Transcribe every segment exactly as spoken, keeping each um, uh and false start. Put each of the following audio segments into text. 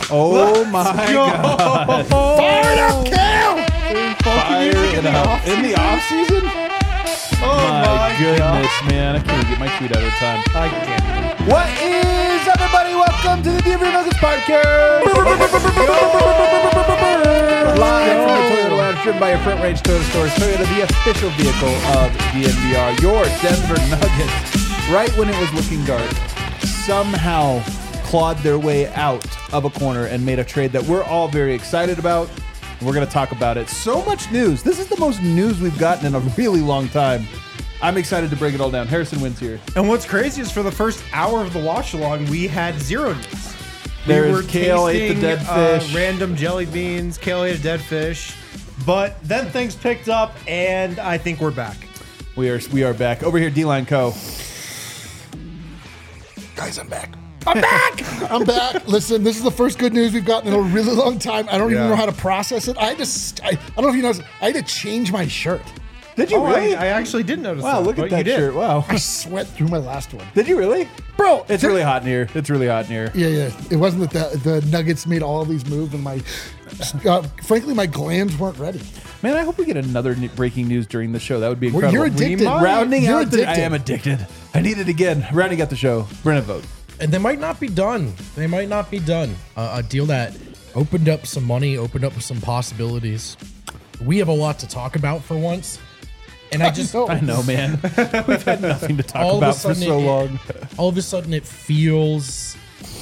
Oh my God! Fire it up, Cal! Fire it up in the off season. Oh my, my goodness, man! I can't get my tweet out of time. I can't. What is up, everybody? Welcome to the Denver Nuggets podcast. Live from the Toyota Lounge, driven by your Front Range Toyota Stores. Toyota, the official vehicle of D N V R. Your Denver Nuggets, right when it was looking dark, somehow clawed their way out of a corner and made a trade that we're all very excited about. We're going to talk about it. So much news. This is the most news we've gotten in a really long time. I'm excited to break it all down. Harrison Wins here. And what's crazy is for the first hour of the watch along, we had zero news. There we is were Kale ate the tasting, dead uh, fish. random jelly beans. Kale ate a dead fish. But then things picked up, and I think we're back. We are we are back. Over here, D-Line Co. Guys, I'm back. I'm back! I'm back. Listen, this is the first good news we've gotten in a really long time. I don't Yeah. even know how to process it. I just, I, I don't know if you noticed, I had to change my shirt. Did you Oh, really? I, I actually did notice wow, that. look but at that you did. shirt. Wow. I sweat through my last one. Did you really? Bro, It's really hot in here. It's really hot in here. Yeah, yeah. It wasn't that the, the Nuggets made all these moves and my, uh, frankly, my glands weren't ready. Man, I hope we get another n- breaking news during the show. That would be Well, incredible. you're addicted. might. Rounding You're out the, I addicted. am addicted. I need it again. Rounding out the show. Brennan vote. And they might not be done. They might not be done. Uh, a deal that opened up some money, opened up some possibilities. We have a lot to talk about for once. And I just, know. I know, man. We've had nothing to talk all of a about for sudden so it- long. all of a sudden it feels.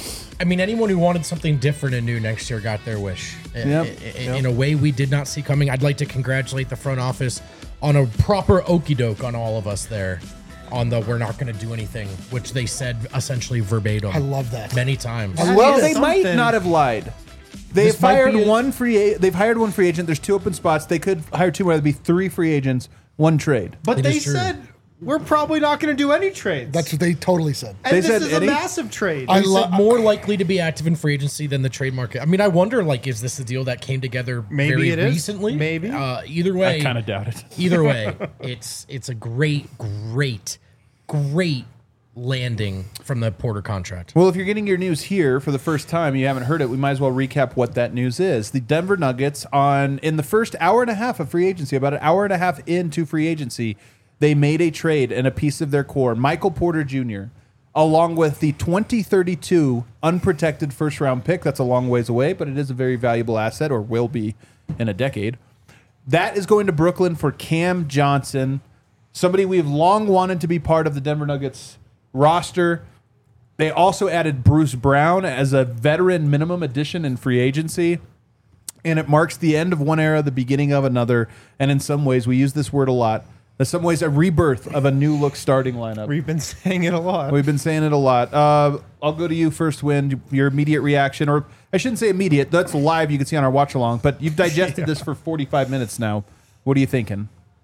I mean, anyone who wanted something different and new next year got their wish. I- Yep. I- I- In a way we did not see coming. I'd like to congratulate the front office on a proper okey doke on all of us there. On the we're not going to do anything, which they said essentially verbatim. I love that. Many times. I Well, love they it. might something. not have lied. They've This might hired be a- one free. A- they've hired one free agent. There's two open spots. They could hire two more. That'd be three free agents, one trade. But It they is true. said we're probably not going to do any trades. That's what they totally said. and they this said is any? a massive trade. I They lo- said more likely to be active in free agency than the trade market. I mean, I wonder, like, is this a deal that came together Maybe very it is. recently? Maybe. Uh, either way, I kind of doubt it. either way, it's it's a great, great, great landing from the Porter contract. Well, if you're getting your news here for the first time, you haven't heard it, we might as well recap what that news is. The Denver Nuggets, on in the first hour and a half of free agency, about an hour and a half into free agency, they made a trade and a piece of their core, Michael Porter Junior, along with the twenty thirty-two unprotected first-round pick. That's a long ways away, but it is a very valuable asset, or will be in a decade. That is going to Brooklyn for Cam Johnson, somebody we've long wanted to be part of the Denver Nuggets roster. They also added Bruce Brown as a veteran minimum addition in free agency. And it marks the end of one era, the beginning of another. And in some ways, we use this word a lot. In some ways, a rebirth of a new look starting lineup. We've been saying it a lot. We've been saying it a lot. Uh, I'll go to you first, Win. Your immediate reaction, or I shouldn't say immediate. That's live. You can see on our watch along. But you've digested this for forty-five minutes now. What are you thinking?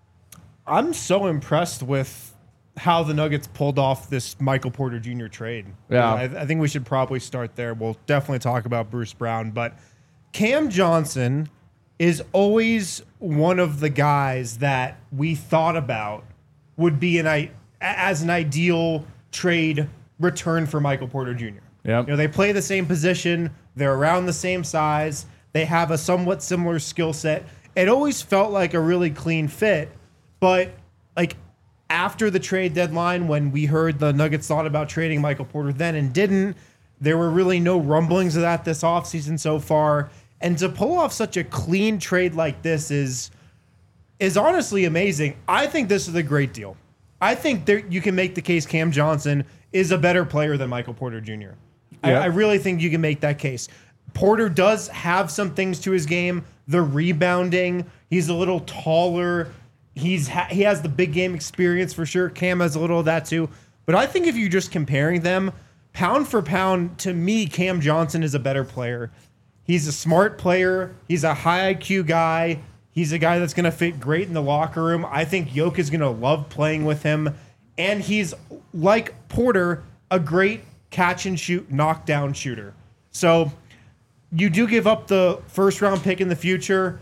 I'm so impressed with how the Nuggets pulled off this Michael Porter Junior trade. Yeah. I, I think we should probably start there. We'll definitely talk about Bruce Brown, but Cam Johnson is always one of the guys that we thought about would be an I as an ideal trade return for Michael Porter Junior Yep. You know, they play the same position, they're around the same size, they have a somewhat similar skill set. It always felt like a really clean fit, but like after the trade deadline, when we heard the Nuggets thought about trading Michael Porter then and didn't, there were really no rumblings of that this offseason so far. And to pull off such a clean trade like this is is honestly amazing. I think this is a great deal. I think there, you can make the case Cam Johnson is a better player than Michael Porter Junior I, Yeah. I really think you can make that case. Porter does have some things to his game. The rebounding, he's a little taller. He's ha- he has the big game experience for sure. Cam has a little of that too. But I think if you're just comparing them, pound for pound, to me, Cam Johnson is a better player. He's a smart player. He's a high I Q guy. He's a guy that's going to fit great in the locker room. I think Yoke is going to love playing with him. And he's, like Porter, a great catch and shoot, knockdown shooter. So you do give up the first round pick in the future.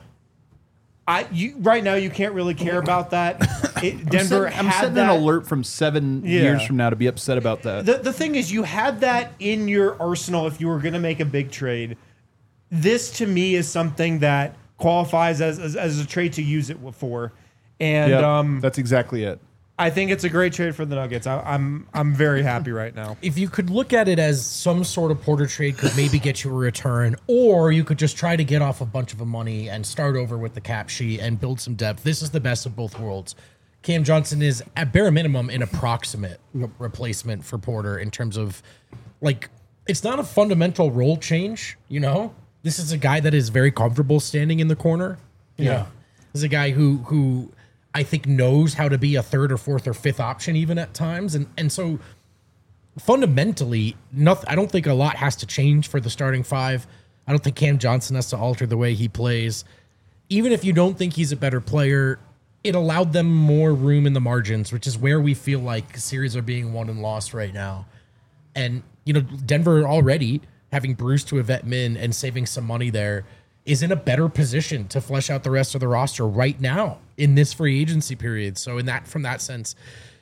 I you right now you can't really care about that. It, Denver I'm setting, I'm had setting that. an alert from seven Yeah. years from now to be upset about that. The the thing is, you had that in your arsenal if you were going to make a big trade. this to me is something that qualifies as, as, as a trade to use it for. And Yep, um, that's exactly it. I think it's a great trade for the Nuggets. I, I'm I'm very happy right now. If you could look at it as some sort of Porter trade could maybe get you a return, or you could just try to get off a bunch of money and start over with the cap sheet and build some depth. This is the best of both worlds. Cam Johnson is at bare minimum an approximate replacement for Porter in terms of, like, it's not a fundamental role change, you know? This is a guy that is very comfortable standing in the corner. You Yeah. know? This is a guy who who I think knows how to be a third or fourth or fifth option even at times. And and so fundamentally, nothing, I don't think a lot has to change for the starting five. I don't think Cam Johnson has to alter the way he plays. Even if you don't think he's a better player, it allowed them more room in the margins, which is where we feel like series are being won and lost right now. And, you know, Denver already, having Bruce to a vet min and saving some money there, is in a better position to flesh out the rest of the roster right now in this free agency period. So in that, from that sense,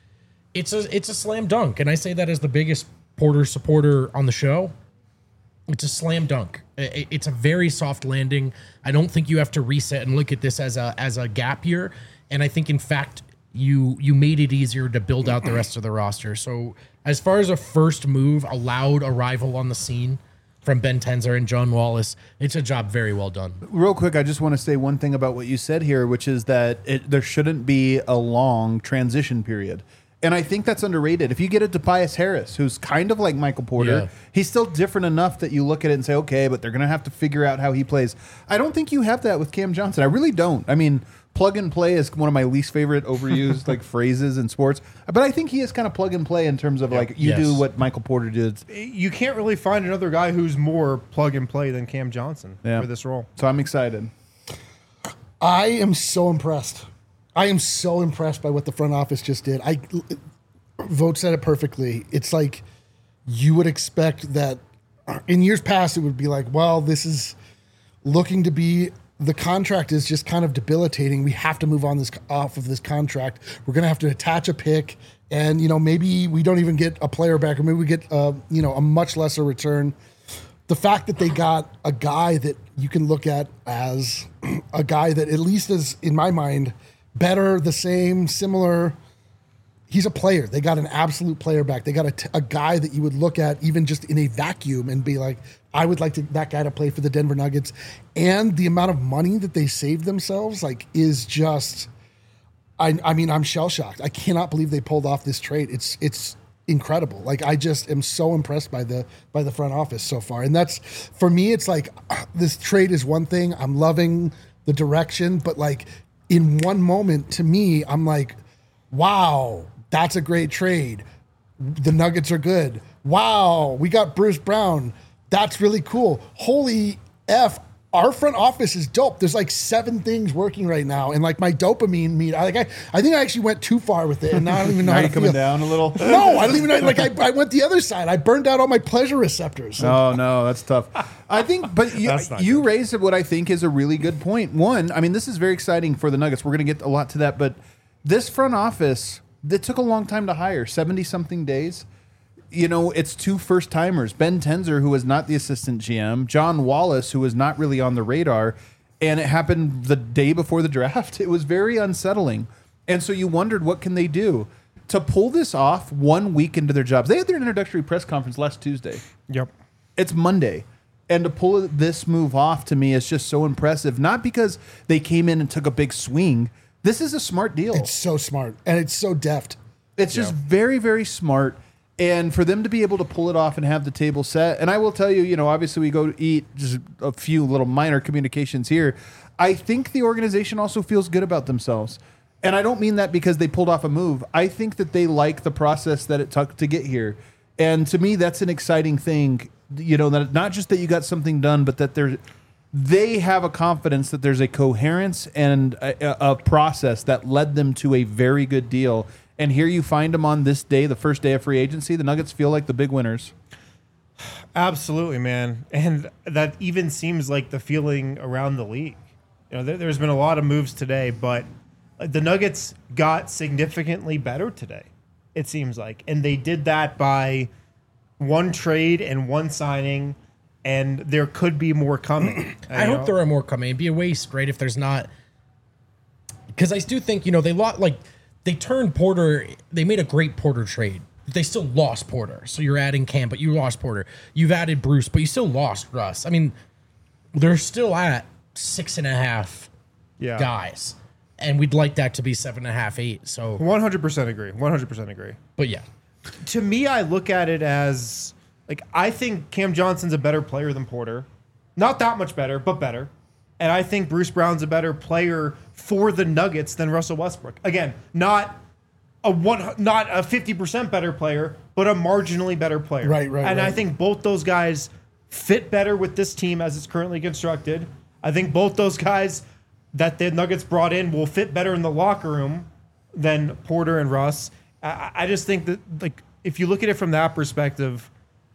it's a it's a slam dunk. And I say that as the biggest Porter supporter on the show. It's a slam dunk. I- It's a very soft landing. I don't think you have to reset and look at this as a as a gap year. And I think, in fact, you you made it easier to build out the rest of the roster. So as far as a first move, a loud arrival on the scene from Ben Tenzer and John Wallace, it's a job very well done. Real quick, I just want to say one thing about what you said here, which is that it, there shouldn't be a long transition period. And I think that's underrated. If you get a Tobias Harris, who's kind of like Michael Porter, Yeah. he's still different enough that you look at it and say, okay, but they're going to have to figure out how he plays. I don't think you have that with Cam Johnson. I really don't. I mean, plug and play is one of my least favorite overused like phrases in sports. But I think he is kind of plug and play in terms of like you Yes. do what Michael Porter did. You can't really find another guy who's more plug and play than Cam Johnson Yeah. for this role. So I'm excited. I am so impressed. I am so impressed by what the front office just did. I Vogt said it perfectly. It's like you would expect that in years past it would be like, well, this is looking to be the contract is just kind of debilitating. We have to move on this off of this contract. We're going to have to attach a pick, and you know maybe we don't even get a player back, or maybe we get uh, you know a much lesser return. The fact that they got a guy that you can look at as a guy that at least is, in my mind, better, the same, similar. He's a player. They got an absolute player back. They got a, t- a guy that you would look at even just in a vacuum and be like, I would like to, that guy to play for the Denver Nuggets. And the amount of money that they saved themselves, like, is just, I, I mean, I'm shell shocked. I cannot believe they pulled off this trade. It's, it's incredible. Like, I just am so impressed by the, by the front office so far. And that's, for me, it's like, this trade is one thing. I'm loving the direction, but like in one moment, to me, I'm like, wow, that's a great trade. The Nuggets are good. Wow, we got Bruce Brown. That's really cool. Holy F, our front office is dope. There's like seven things working right now. And like my dopamine meet, I like I, I think I actually went too far with it. And now I don't even know Now how you to coming feel. down a little? No, I don't even know. Like I, I went the other side. I burned out all my pleasure receptors. Oh no, that's tough. I think, but you, That's not you raised what I think is a really good point. One, I mean, this is very exciting for the Nuggets. We're going to get a lot to that, but this front office, that took a long time to hire, seventy something days. You know, it's two first timers: Ben Tenzer, who was not the assistant G M, John Wallace, who was not really on the radar, and it happened the day before the draft. It was very unsettling, and so you wondered what can they do to pull this off one week into their jobs. They had their introductory press conference last Tuesday. Yep. It's Monday. And to pull this move off to me is just so impressive. Not because they came in and took a big swing. This is a smart deal. It's so smart and it's so deft. It's just very, very smart. And for them to be able to pull it off and have the table set. And I will tell you, you know, obviously we go to eat, just a few little minor communications here. I think the organization also feels good about themselves. And I don't mean that because they pulled off a move. I think that they like the process that it took to get here. And to me, that's an exciting thing. You know, that not just that you got something done, but that there's, they have a confidence that there's a coherence and a, a process that led them to a very good deal. And here you find them on this day, the first day of free agency. The Nuggets feel like the big winners. Absolutely, man. And that even seems like the feeling around the league. You know, there, there's been a lot of moves today, but the Nuggets got significantly better today, it seems like. And they did that by one trade and one signing and there could be more coming. I hope there are more coming. It'd be a waste, right? If there's not, because I do think, you know, they lot like they turned Porter. They made a great Porter trade. They still lost Porter, so you're adding Cam, but you lost Porter. You've added Bruce, but you still lost Russ. I mean, they're still at six and a half yeah. guys, and we'd like that to be seven and a half, eight. So one hundred percent agree. one hundred percent agree. But yeah, to me, I look at it as like I think Cam Johnson's a better player than Porter, not that much better, but better. And I think Bruce Brown's a better player for the Nuggets than Russell Westbrook. Again, not a one, not a fifty percent better player, but a marginally better player. Right, right. And right. I think both those guys fit better with this team as it's currently constructed. I think both those guys that the Nuggets brought in will fit better in the locker room than Porter and Russ. I, I just think that, like, if you look at it from that perspective,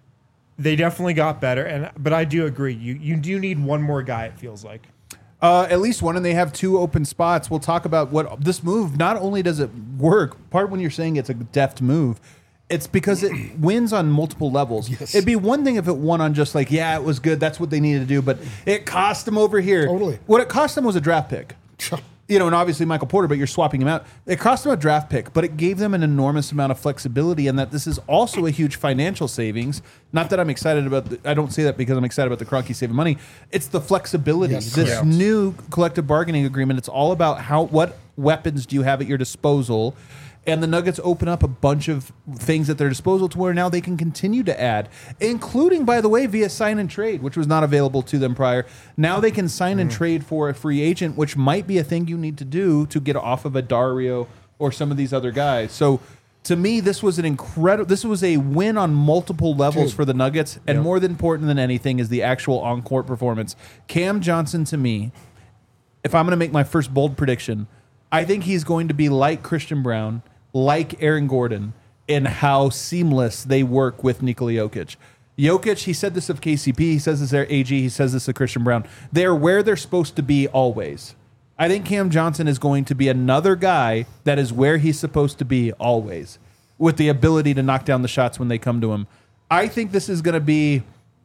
they definitely got better. And but I do agree, you you do need one more guy. It feels like. Uh, at least one, and they have two open spots. We'll talk about what this move. Not only does it work, part when you're saying it's a deft move, it's because it wins on multiple levels. Yes. It'd be one thing if it won on just like, yeah, it was good, that's what they needed to do, but it cost them over here. Totally. What it cost them was a draft pick. You know, and obviously Michael Porter, but you're swapping him out. It cost them a draft pick, but it gave them an enormous amount of flexibility, and that this is also a huge financial savings. Not that I'm excited about, the, I don't say that because I'm excited about the Kroenke saving money. It's the flexibility. Yes, this correct. new collective bargaining agreement, it's all about how what weapons do you have at your disposal. And the Nuggets open up a bunch of things at their disposal to where now they can continue to add, including, by the way, via sign and trade, which was not available to them prior. Now they can sign and trade for a free agent, which might be a thing you need to do to get off of a Dario or some of these other guys. So to me, this was an incredible, this was a win on multiple levels Dude. for the Nuggets. And more than important than anything is the actual on-court performance. Cam Johnson, to me, if I'm going to make my first bold prediction, I think he's going to be like Christian Brown, like Aaron Gordon, in how seamless they work with Nikola Jokic. Jokic, he said this of K C P, he says this of A G, he says this of Christian Brown. They're where they're supposed to be always. I think Cam Johnson is going to be another guy that is where he's supposed to be always, with the ability to knock down the shots when they come to him. I think this is going to be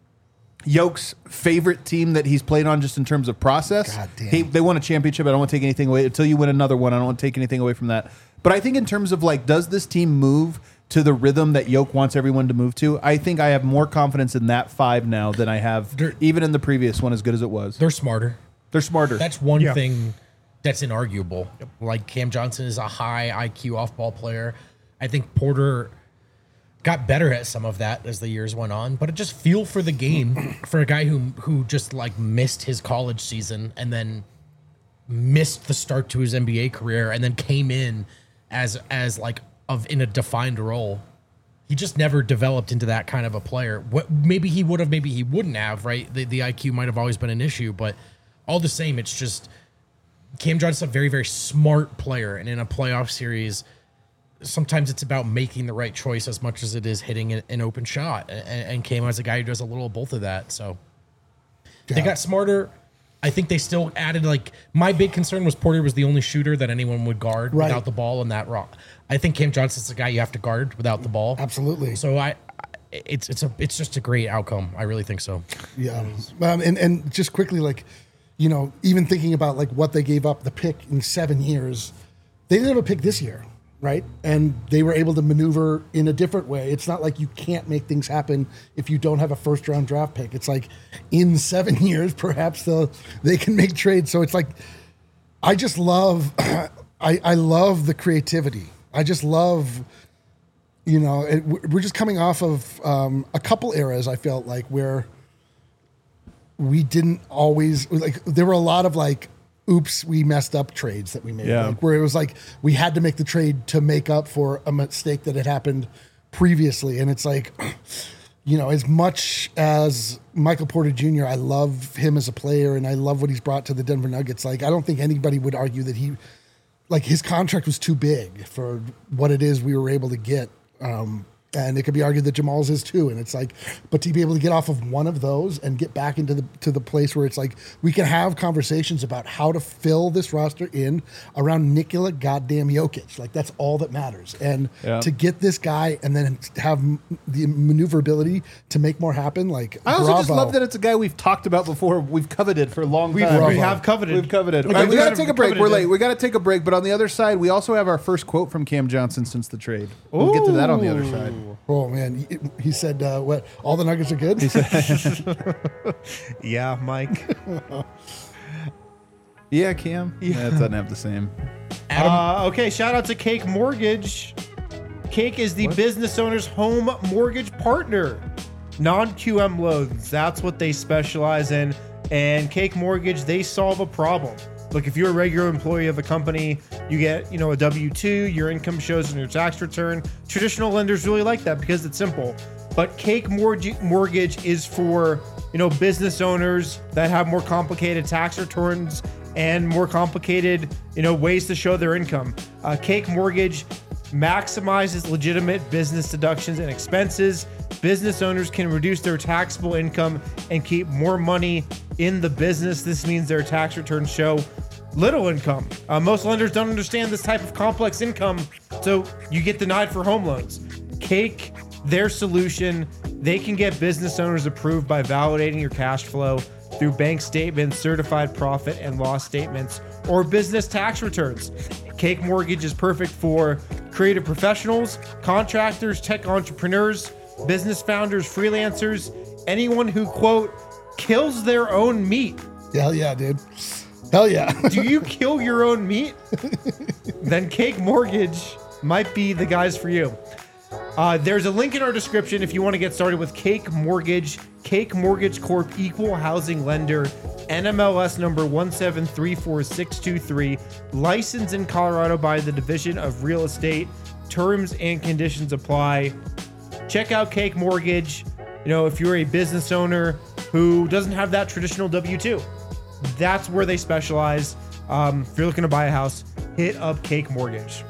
Yoke's favorite team that he's played on just in terms of process. God damn. He, they won a championship. I don't want to take anything away. Until you win another one, I don't want to take anything away from that. But I think in terms of, like, does this team move to the rhythm that Yoke wants everyone to move to? I think I have more confidence in that five now than I have They're- even in the previous one, as good as it was. they're smarter. They're smarter. That's one Yeah. thing that's inarguable. Like Cam Johnson is a high I Q off-ball player. I think Porter got better at some of that as the years went on, but it just feel for the game for a guy who who just like missed his college season and then missed the start to his N B A career and then came in as as like of in a defined role. He just never developed into that kind of a player. What maybe he would have, maybe he wouldn't have, right? The the I Q might have always been an issue, but all the same, it's just Cam Johnson's a very, very smart player, and in a playoff series, sometimes it's about making the right choice as much as it is hitting an, an open shot. And, and Cam is a guy who does a little of both of that. So they Yeah. got smarter. I think they still added, like, my big concern was Porter was the only shooter that anyone would guard Right. without the ball in that rock. I think Cam Johnson's the guy you have to guard without the ball. Absolutely. So I, it's it's a it's just a great outcome. I really think so. Yeah, um, and and just quickly, like, you know, even thinking about like what they gave up the pick in seven years, they didn't have a pick this year, right? And they were able to maneuver in a different way. It's not like you can't make things happen if you don't have a first round draft pick. It's like in seven years, perhaps they'll they can make trades. So it's like, I just love, I I love the creativity. I just love. You know, it, we're just coming off of um, a couple eras, I felt like, where we didn't always, like, there were a lot of, like, oops, we messed up trades that we made. Yeah. Like, where it was like, we had to make the trade to make up for a mistake that had happened previously. And it's like, you know, as much as Michael Porter Junior, I love him as a player and I love what he's brought to the Denver Nuggets. Like, I don't think anybody would argue that he, like, his contract was too big for what it is we were able to get. Um, And it could be argued that Jamal's is too. And it's like, but to be able to get off of one of those and get back into the to the place where it's like we can have conversations about how to fill this roster in around Nikola goddamn Jokic. Like that's all that matters. And Yeah. to get this guy and then have m- the maneuverability to make more happen, like I also bravo. just love that it's a guy we've talked about before. We've coveted for a long We've, time. we have coveted. We've coveted. Like, All right, we we got to have take a break. coveted We're it. late. We got to take a break. But on the other side, we also have our first quote from Cam Johnson since the trade. We'll get to that on the other side. Oh man, he, he said, uh, "What? All the Nuggets are good." Yeah, Mike. Yeah, Cam. Yeah, it doesn't have the same. Uh, okay, shout out to Cake Mortgage. Cake is the business owner's home mortgage partner. Non-Q M loans, that's what they specialize in. And Cake Mortgage, they solve a problem. Look, if you're a regular employee of a company, you get, you know, a W two, your income shows in your tax return. Traditional lenders really like that because it's simple. But Cake Mortgage Mortgage is for, you know, business owners that have more complicated tax returns and more complicated, you know, ways to show their income. Uh, Cake Mortgage maximizes legitimate business deductions and expenses. Business owners can reduce their taxable income and keep more money in the business. This means their tax returns show little income. Uh, most lenders don't understand this type of complex income, so you get denied for home loans. Cake, their solution, they can get business owners approved by validating your cash flow through bank statements, certified profit and loss statements, or business tax returns. Cake Mortgage is perfect for creative professionals, contractors, tech entrepreneurs, business founders, freelancers, anyone who, quote, kills their own meat. Hell yeah, dude. Hell yeah. Do you kill your own meat? Then Cake Mortgage might be the guys for you. Uh, there's a link in our description if you want to get started with Cake Mortgage. Cake Mortgage Corp, equal housing lender, N M L S number one seven three four six two three, licensed in Colorado by the Division of Real Estate. Terms and conditions apply. Check out Cake Mortgage. You know, if you're a business owner who doesn't have that traditional W two, that's where they specialize. Um, if you're looking to buy a house, hit up Cake Mortgage.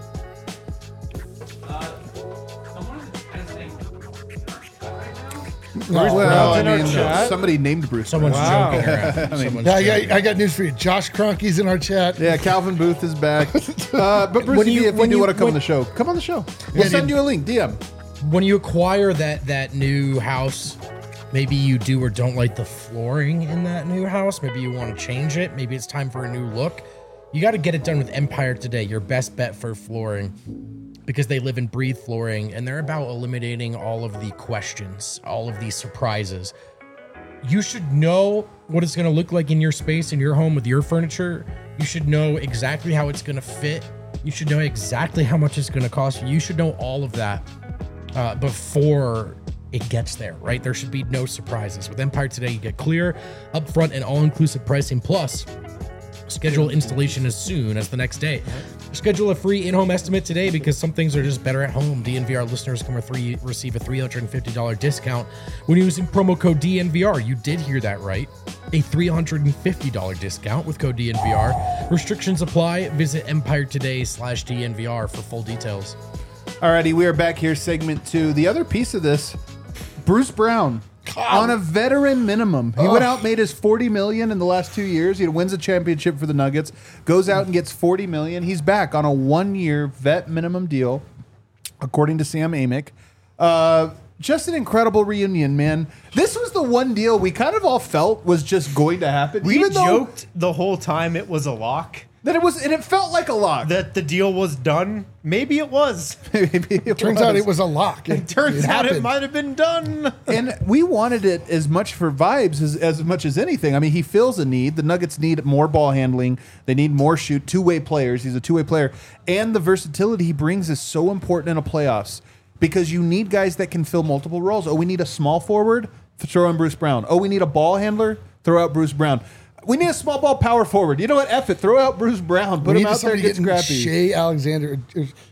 No, Well, I in our mean, chat. somebody named Bruce. Someone's Wow. joking around. Someone's yeah, I joking. got, I got news for you. Josh Kroenke's in our chat. Yeah, Calvin Booth is back. Uh, but Bruce, When if you- you, if you when do you- want to come on when- the show, come on the show. We'll Yeah, send dude. you a link. D M. When you acquire that that new house, maybe you do or don't like the flooring in that new house. Maybe you want to change it. Maybe it's time for a new look. You got to get it done with Empire Today, your best bet for flooring, because they live and breathe flooring, and they're about eliminating all of the questions, all of these surprises. You should know what it's going to look like in your space, in your home with your furniture. You should know exactly how it's going to fit. You should know exactly how much it's going to cost you. You should know all of that uh, before it gets there, right? There should be no surprises. With Empire Today, you get clear, upfront, and all-inclusive pricing. Plus, schedule installation as soon as the next day. Schedule a free in-home estimate today because some things are just better at home. D N V R listeners can re- receive a three hundred fifty dollars discount when using promo code D N V R. You did hear that right. A three hundred fifty dollars discount with code D N V R. Restrictions apply. Visit Empire Today slash D N V R for full details. Alrighty, we are back here, segment two. The other piece of this, Bruce Brown. On a veteran minimum. He went out, made his forty million dollars in the last two years. He wins a championship for the Nuggets, goes out and gets forty million dollars. He's back on a one-year vet minimum deal, according to Sam Amick. Uh, just an incredible reunion, man. This was the one deal we kind of all felt was just going to happen. We even though joked the whole time it was a lock, that it was, and it felt like a lock. that the deal was done. Maybe it was. Maybe it Turns out it was a lock. It, Turns out it happened. might have been done. And we wanted it as much for vibes as, as much as anything. I mean, he fills a need. The Nuggets need more ball handling. They need more shoot, two-way players. He's a two-way player. And the versatility he brings is so important in a playoffs because you need guys that can fill multiple roles. Oh, we need a small forward? Throw in Bruce Brown. Oh, we need a ball handler? Throw out Bruce Brown. We need a small ball power forward. You know what? F it. Throw out Bruce Brown. Put We him need out there and somebody get getting scrappy. Shea Alexander,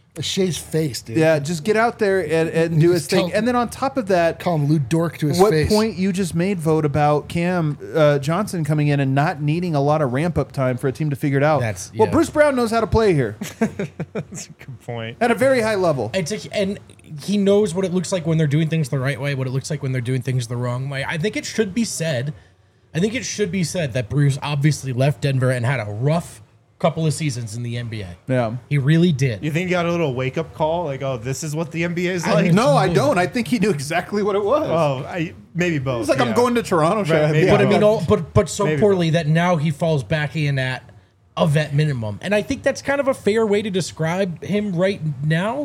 Shea's face, dude. Yeah, just get out there and, and do his Just thing. tell- And then on top of that, Call him Lou Dork to his what face. point you just made, Vote, about Cam uh, Johnson coming in and not needing a lot of ramp up time for a team to figure it out. That's- Well, yeah. Bruce Brown knows how to play here That's a good point. at a very high level. It's a, and he knows what it looks like when they're doing things the right way, what it looks like when they're doing things the wrong way. I think it should be said. I think it should be said that Bruce obviously left Denver and had a rough couple of seasons in the N B A. Yeah. He really did. You think he got a little wake up call, like, oh, this is what the N B A is I like? mean, No, I don't. I think he knew exactly what it was. Oh, I, maybe both. It's like I'm yeah. going to Toronto. should I have maybe. the But I hour? mean, all, but but so Maybe poorly that now he falls back in at a vet minimum, and I think that's kind of a fair way to describe him right now,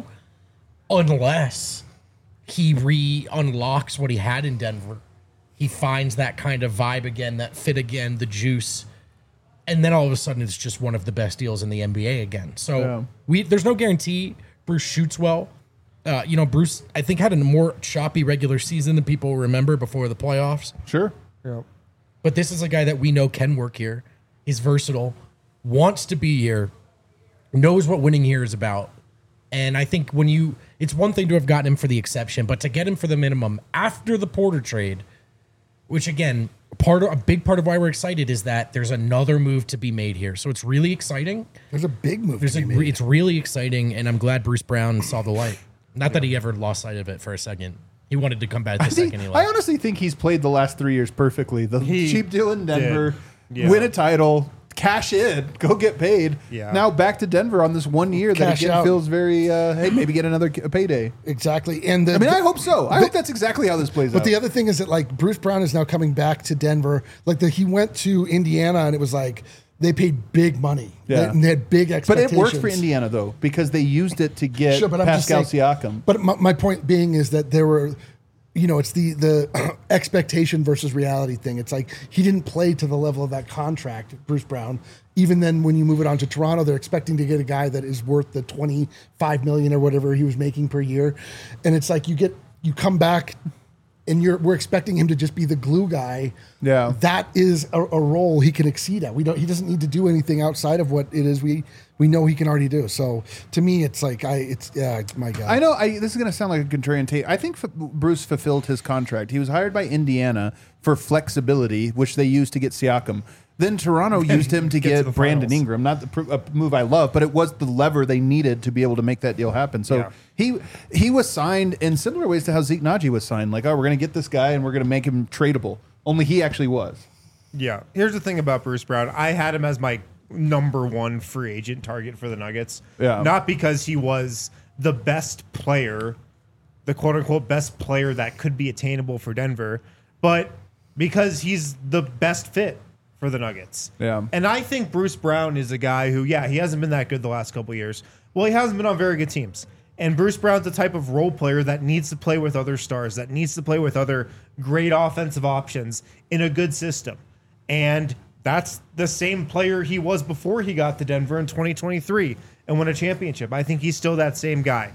unless he re unlocks what he had in Denver. He finds that kind of vibe again, that fit again, the juice, and then all of a sudden it's just one of the best deals in the N B A again. So Yeah. we there's no guarantee Bruce shoots well. Uh, you know, Bruce I think had a more choppy regular season than people remember before the playoffs. Sure. But this is a guy that we know can work here. He's versatile, wants to be here, knows what winning here is about. And I think when you, it's one thing to have gotten him for the exception, but to get him for the minimum after the Porter trade, which again, part of a big part of why we're excited is that there's another move to be made here. So it's really exciting. There's a big move There's to a, be made. it's really exciting, and I'm glad Bruce Brown saw the light. Not that he ever lost sight of it for a second. He wanted to come back the I, think, second he I left. honestly think he's played the last three years perfectly. The He cheap deal in Denver, did. Yeah. win a title, cash in, go get paid. Yeah. Now back to Denver on this one year that Cash again out. feels very, uh, hey, maybe get another k- payday. Exactly. And the, I mean, I hope so. I the- hope that's exactly how this plays But out. the other thing is that like Bruce Brown is now coming back to Denver. Like the, he went to Indiana and it was like they paid big money. Yeah. They, and they had big but expectations. it worked for Indiana, though, because they used it to get Sure, but I'm just Pascal saying- Siakam. But my, my point being is that there were, you know, it's the the expectation versus reality thing. It's like he didn't play to the level of that contract, Bruce Brown. Even then, when you move it on to Toronto, they're expecting to get a guy that is worth the twenty-five million or whatever he was making per year, and it's like you get you come back. And you're, we're expecting him to just be the glue guy. Yeah. That is a, a role he can exceed at. We don't. He doesn't need to do anything outside of what it is we we know he can already do. So to me, it's like I. It's yeah. My God. I know I, this is going to sound like a contrarian take. I think F- Bruce fulfilled his contract. He was hired by Indiana for flexibility, which they used to get Siakam. Then Toronto used him to Get get to the Brandon finals. Ingram, not the pr- a move I love, but it was the lever they needed to be able to make that deal happen. So Yeah. he he was signed in similar ways to how Zeke Naji was signed. Like, oh, we're going to get this guy and we're going to make him tradable. Only he actually was. Yeah. Here's the thing about Bruce Brown. I had him as my number one free agent target for the Nuggets. Yeah. Not because he was the best player, the quote unquote best player that could be attainable for Denver, but because he's the best fit for the Nuggets. Yeah. And I think Bruce Brown is a guy who, yeah, he hasn't been that good the last couple of years. Well, he hasn't been on very good teams. And Bruce Brown's the type of role player that needs to play with other stars, that needs to play with other great offensive options in a good system. And that's the same player he was before he got to Denver in twenty twenty-three and won a championship. I think he's still that same guy.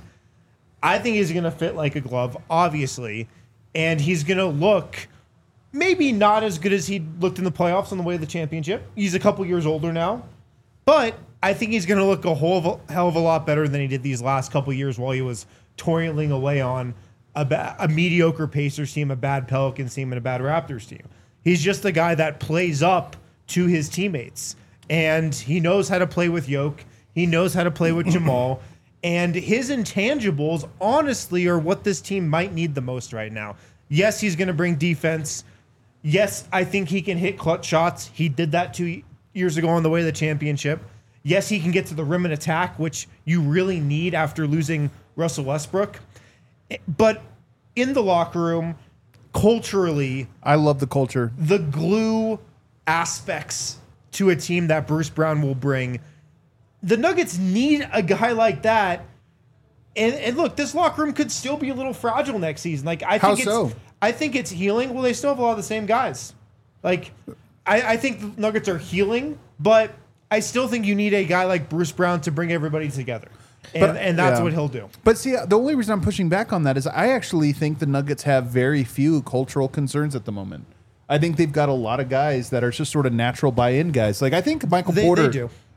I think he's going to fit like a glove, obviously, and he's going to look maybe not as good as he looked in the playoffs on the way to the championship. He's a couple years older now, but I think he's going to look a whole hell of a lot better than he did these last couple years while he was toiling away on a, ba- a mediocre Pacers team, a bad Pelicans team, and a bad Raptors team. He's just the guy that plays up to his teammates, and he knows how to play with Yoke. He knows how to play with Jamal. And his intangibles, honestly, are what this team might need the most right now. Yes, he's going to bring defense. Yes, I think he can hit clutch shots. He did that two years ago on the way to the championship. Yes, he can get to the rim and attack, which you really need after losing Russell Westbrook. But in the locker room, culturally, I love the culture. the glue aspects to a team that Bruce Brown will bring, the Nuggets need a guy like that. And, and look, this locker room could still be a little fragile next season. Like I How think it's, so? I think it's healing. Well, they still have a lot of the same guys. Like I, I think the Nuggets are healing, but I still think you need a guy like Bruce Brown to bring everybody together. And, But- and that's yeah. what he'll do. But see, the only reason I'm pushing back on that is I actually think the Nuggets have very few cultural concerns at the moment. I think they've got a lot of guys that are just sort of natural buy-in guys. Like I think Michael They- Porter. they do.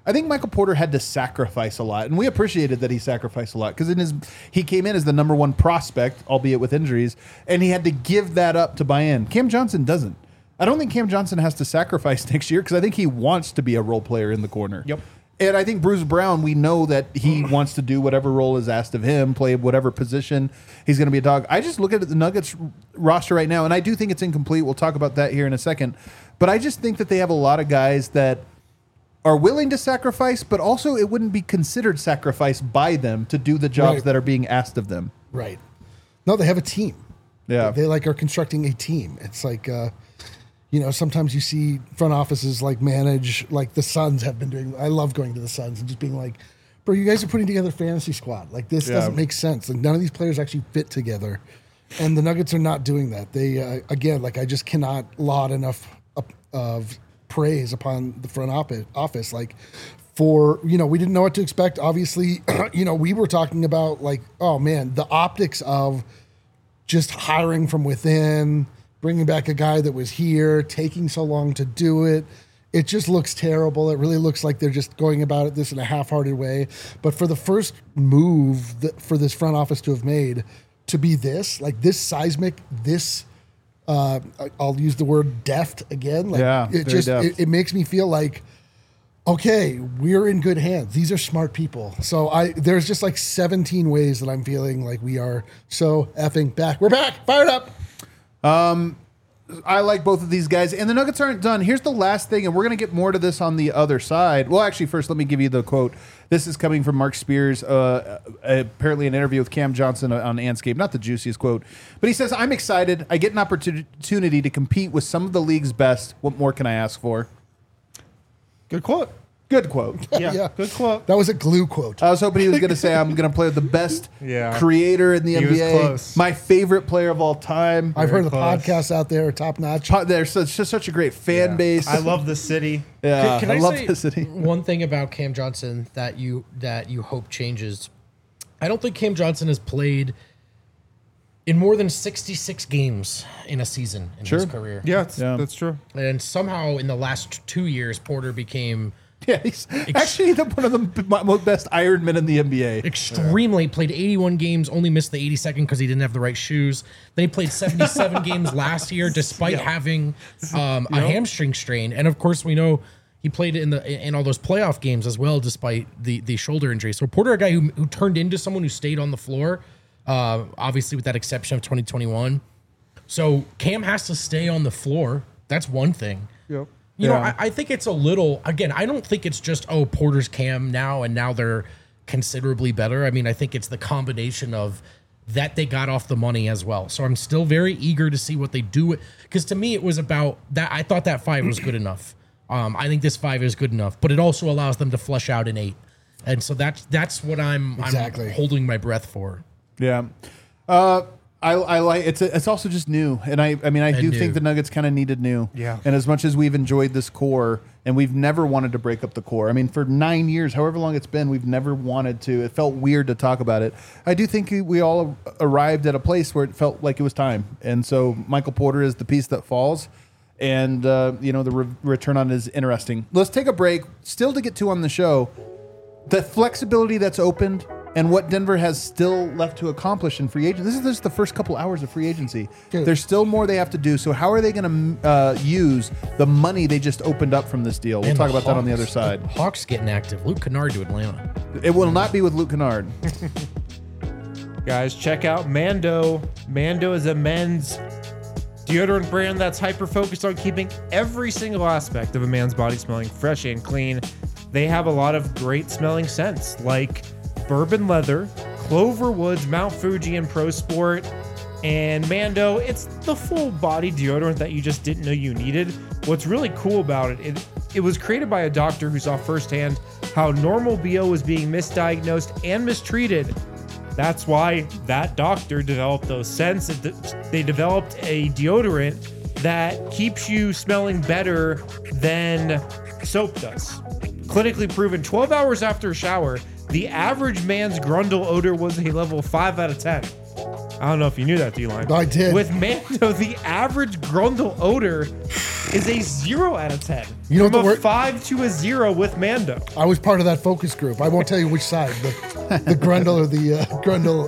I think Michael Porter had to sacrifice a lot, and we appreciated that he sacrificed a lot because in his he came in as the number one prospect, albeit with injuries, and he had to give that up to buy in. Cam Johnson doesn't. I don't think Cam Johnson has to sacrifice next year because I think he wants to be a role player in the corner. Yep. And I think Bruce Brown, we know that he wants to do whatever role is asked of him, play whatever position. He's going to be a dog. I just look at the Nuggets roster right now, and I do think it's incomplete. We'll talk about that here in a second. But I just think that they have a lot of guys that are willing to sacrifice, but also it wouldn't be considered sacrifice by them to do the jobs Right. that are being asked of them. Right. No, they have a team. Yeah. They like are constructing a team. It's like, uh, you know, sometimes you see front offices like manage, like the Suns have been doing. I love going to the Suns and just being like, bro, you guys are putting together a fantasy squad. Like this Yeah. doesn't make sense. Like none of these players actually fit together. And the Nuggets are not doing that. They, uh, again, like I just cannot laud enough up, of praise upon the front office, office. Like for, you know, we didn't know what to expect. Obviously, you know, we were talking about like, oh man, the optics of just hiring from within, bringing back a guy that was here, taking so long to do it. It just looks terrible. It really looks like they're just going about it this in a half-hearted way. But for the first move that, for this front office to have made, to be this, like this seismic, this, uh, I'll use the word deft again. Like Yeah, it very just, deft. it, it makes me feel like, okay, we're in good hands. These are smart people. So I there's just like seventeen ways that I'm feeling like we are so effing back. We're back, fired up. I like both of these guys, and the Nuggets aren't done. Here's the last thing, and we're going to get more to this on the other side. Well, actually, first, let me give you the quote. This is coming from Mark Spears, uh, apparently an interview with Cam Johnson on Anscape. Not the juiciest quote, but he says, I'm excited. I get an opportunity to compete with some of the league's best. What more can I ask for? Good quote. Good quote. Yeah, Yeah. good quote. That was a glue quote. I was hoping he was going to say, I'm going to play with the best Yeah. creator in the He N was B A. close. My favorite player of all time. I've Very heard the close. podcasts out there are top notch. Po- There's such, just such a great fan Yeah. base. I love the city. Yeah, Can I, I, love say the city. one thing about Cam Johnson that you that you hope changes? I don't think Cam Johnson has played in more than sixty-six games in a season in Sure. his career. Yeah, it's, Yeah. that's true. And somehow in the last two years, Porter became Yeah, he's actually the, one of the b- most best Ironmen in the N B A. extremely played eighty-one games, only missed the eighty-second because he didn't have the right shoes. Then he played seventy-seven games last year, despite having um, a hamstring strain. And of course, we know he played in the in all those playoff games as well, despite the the shoulder injury. So Porter, a guy who, who turned into someone who stayed on the floor, uh, obviously with that exception of twenty twenty-one. So Cam has to stay on the floor. That's one thing. Yep. You know, Yeah. I, I think it's a little, again, I don't think it's just, oh, Porter's Cam now and now they're considerably better. I mean, I think it's the combination of that they got off the money as well. So I'm still very eager to see what they do. Because to me, it was about that. I thought that five was good enough. Um, I think this five is good enough, but it also allows them to flesh out an eight. And so that's that's what I'm, Exactly. I'm holding my breath for. Yeah. Uh, I, I like it's a, it's also just new, and I I mean I do new. think the Nuggets kind of needed new. Yeah. And as much as we've enjoyed this core, and we've never wanted to break up the core. I mean, for nine years, however long it's been, we've never wanted to. It felt weird to talk about it. I do think we all arrived at a place where it felt like it was time, and so Michael Porter is the piece that falls. And uh, you know the re- return on it is interesting. Let's take a break. Still to get to on the show, the flexibility that's opened and what Denver has still left to accomplish in free agency. This is just the first couple hours of free agency. Good. There's still more they have to do. So how are they going to uh, use the money they just opened up from this deal? We'll And talk the about that on the other Hawks- side. the Hawks getting active. Luke Kennard to Atlanta. It will not be with Luke Kennard. Guys, check out Mando. Mando is a men's deodorant brand that's hyper focused on keeping every single aspect of a man's body smelling fresh and clean. They have a lot of great smelling scents like bourbon leather, Clover Woods, Mount Fuji, and Pro Sport. And Mando, it's the full body deodorant that you just didn't know you needed. What's really cool about it, it, it was created by a doctor who saw firsthand how normal B O was being misdiagnosed and mistreated. That's why that doctor developed those scents. They developed a deodorant that keeps you smelling better than soap does. Clinically proven, twelve hours after a shower, the average man's Grundle odor was a level five out of ten. I don't know if you knew that, D-Line. I did. With Mando, the average Grundle odor is a zero out of ten. You know From what a the word- five to a zero with Mando. I was part of that focus group. I won't tell you which side, the, the Grundle or the uh, Grundle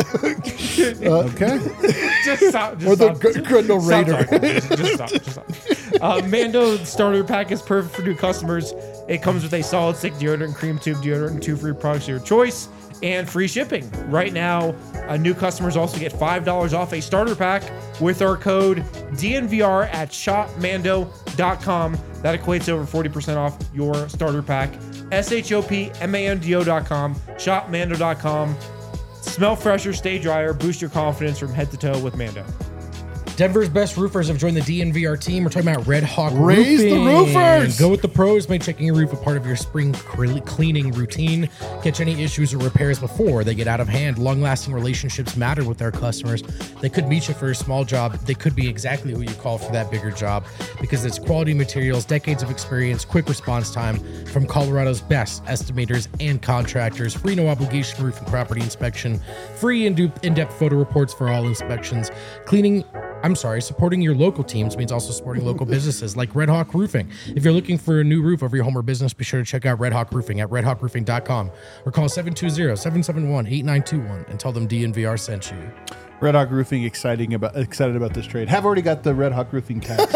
Okay. Just stop. Just or the stop. Gr- Grundle Stop Raider. talking. Just, just stop. Just stop. Uh, Mando starter pack is perfect for new customers. It comes with a solid stick deodorant, cream tube deodorant, and two free products of your choice, and free shipping. Right now, uh, new customers also get five dollars off a starter pack with our code D N V R at shop mando dot com. That equates to over forty percent off your starter pack. S H O P M A N D O dot com, shop mando dot com. Smell fresher, stay drier, boost your confidence from head to toe with Mando. Denver's best roofers have joined the D N V R team. We're talking about Red Hawk Raise the Roofing. roofers! Go with the pros. Make checking your roof a part of your spring cre- cleaning routine. Catch any issues or repairs before they get out of hand. Long-lasting relationships matter with their customers. They could meet you for a small job. They could be exactly who you call for that bigger job because it's quality materials, decades of experience, quick response time from Colorado's best estimators and contractors. Free no obligation roof and property inspection. Free in- in-depth photo reports for all inspections. Cleaning I'm sorry, supporting your local teams means also supporting local businesses like Red Hawk Roofing. If you're looking for a new roof over your home or business, be sure to check out Red Hawk Roofing at red hawk roofing dot com or call seven two zero, seven seven one, eight nine two one and tell them D N V R sent you. Red Hawk Roofing exciting about excited about this trade. Have already got the Red Hawk Roofing tax.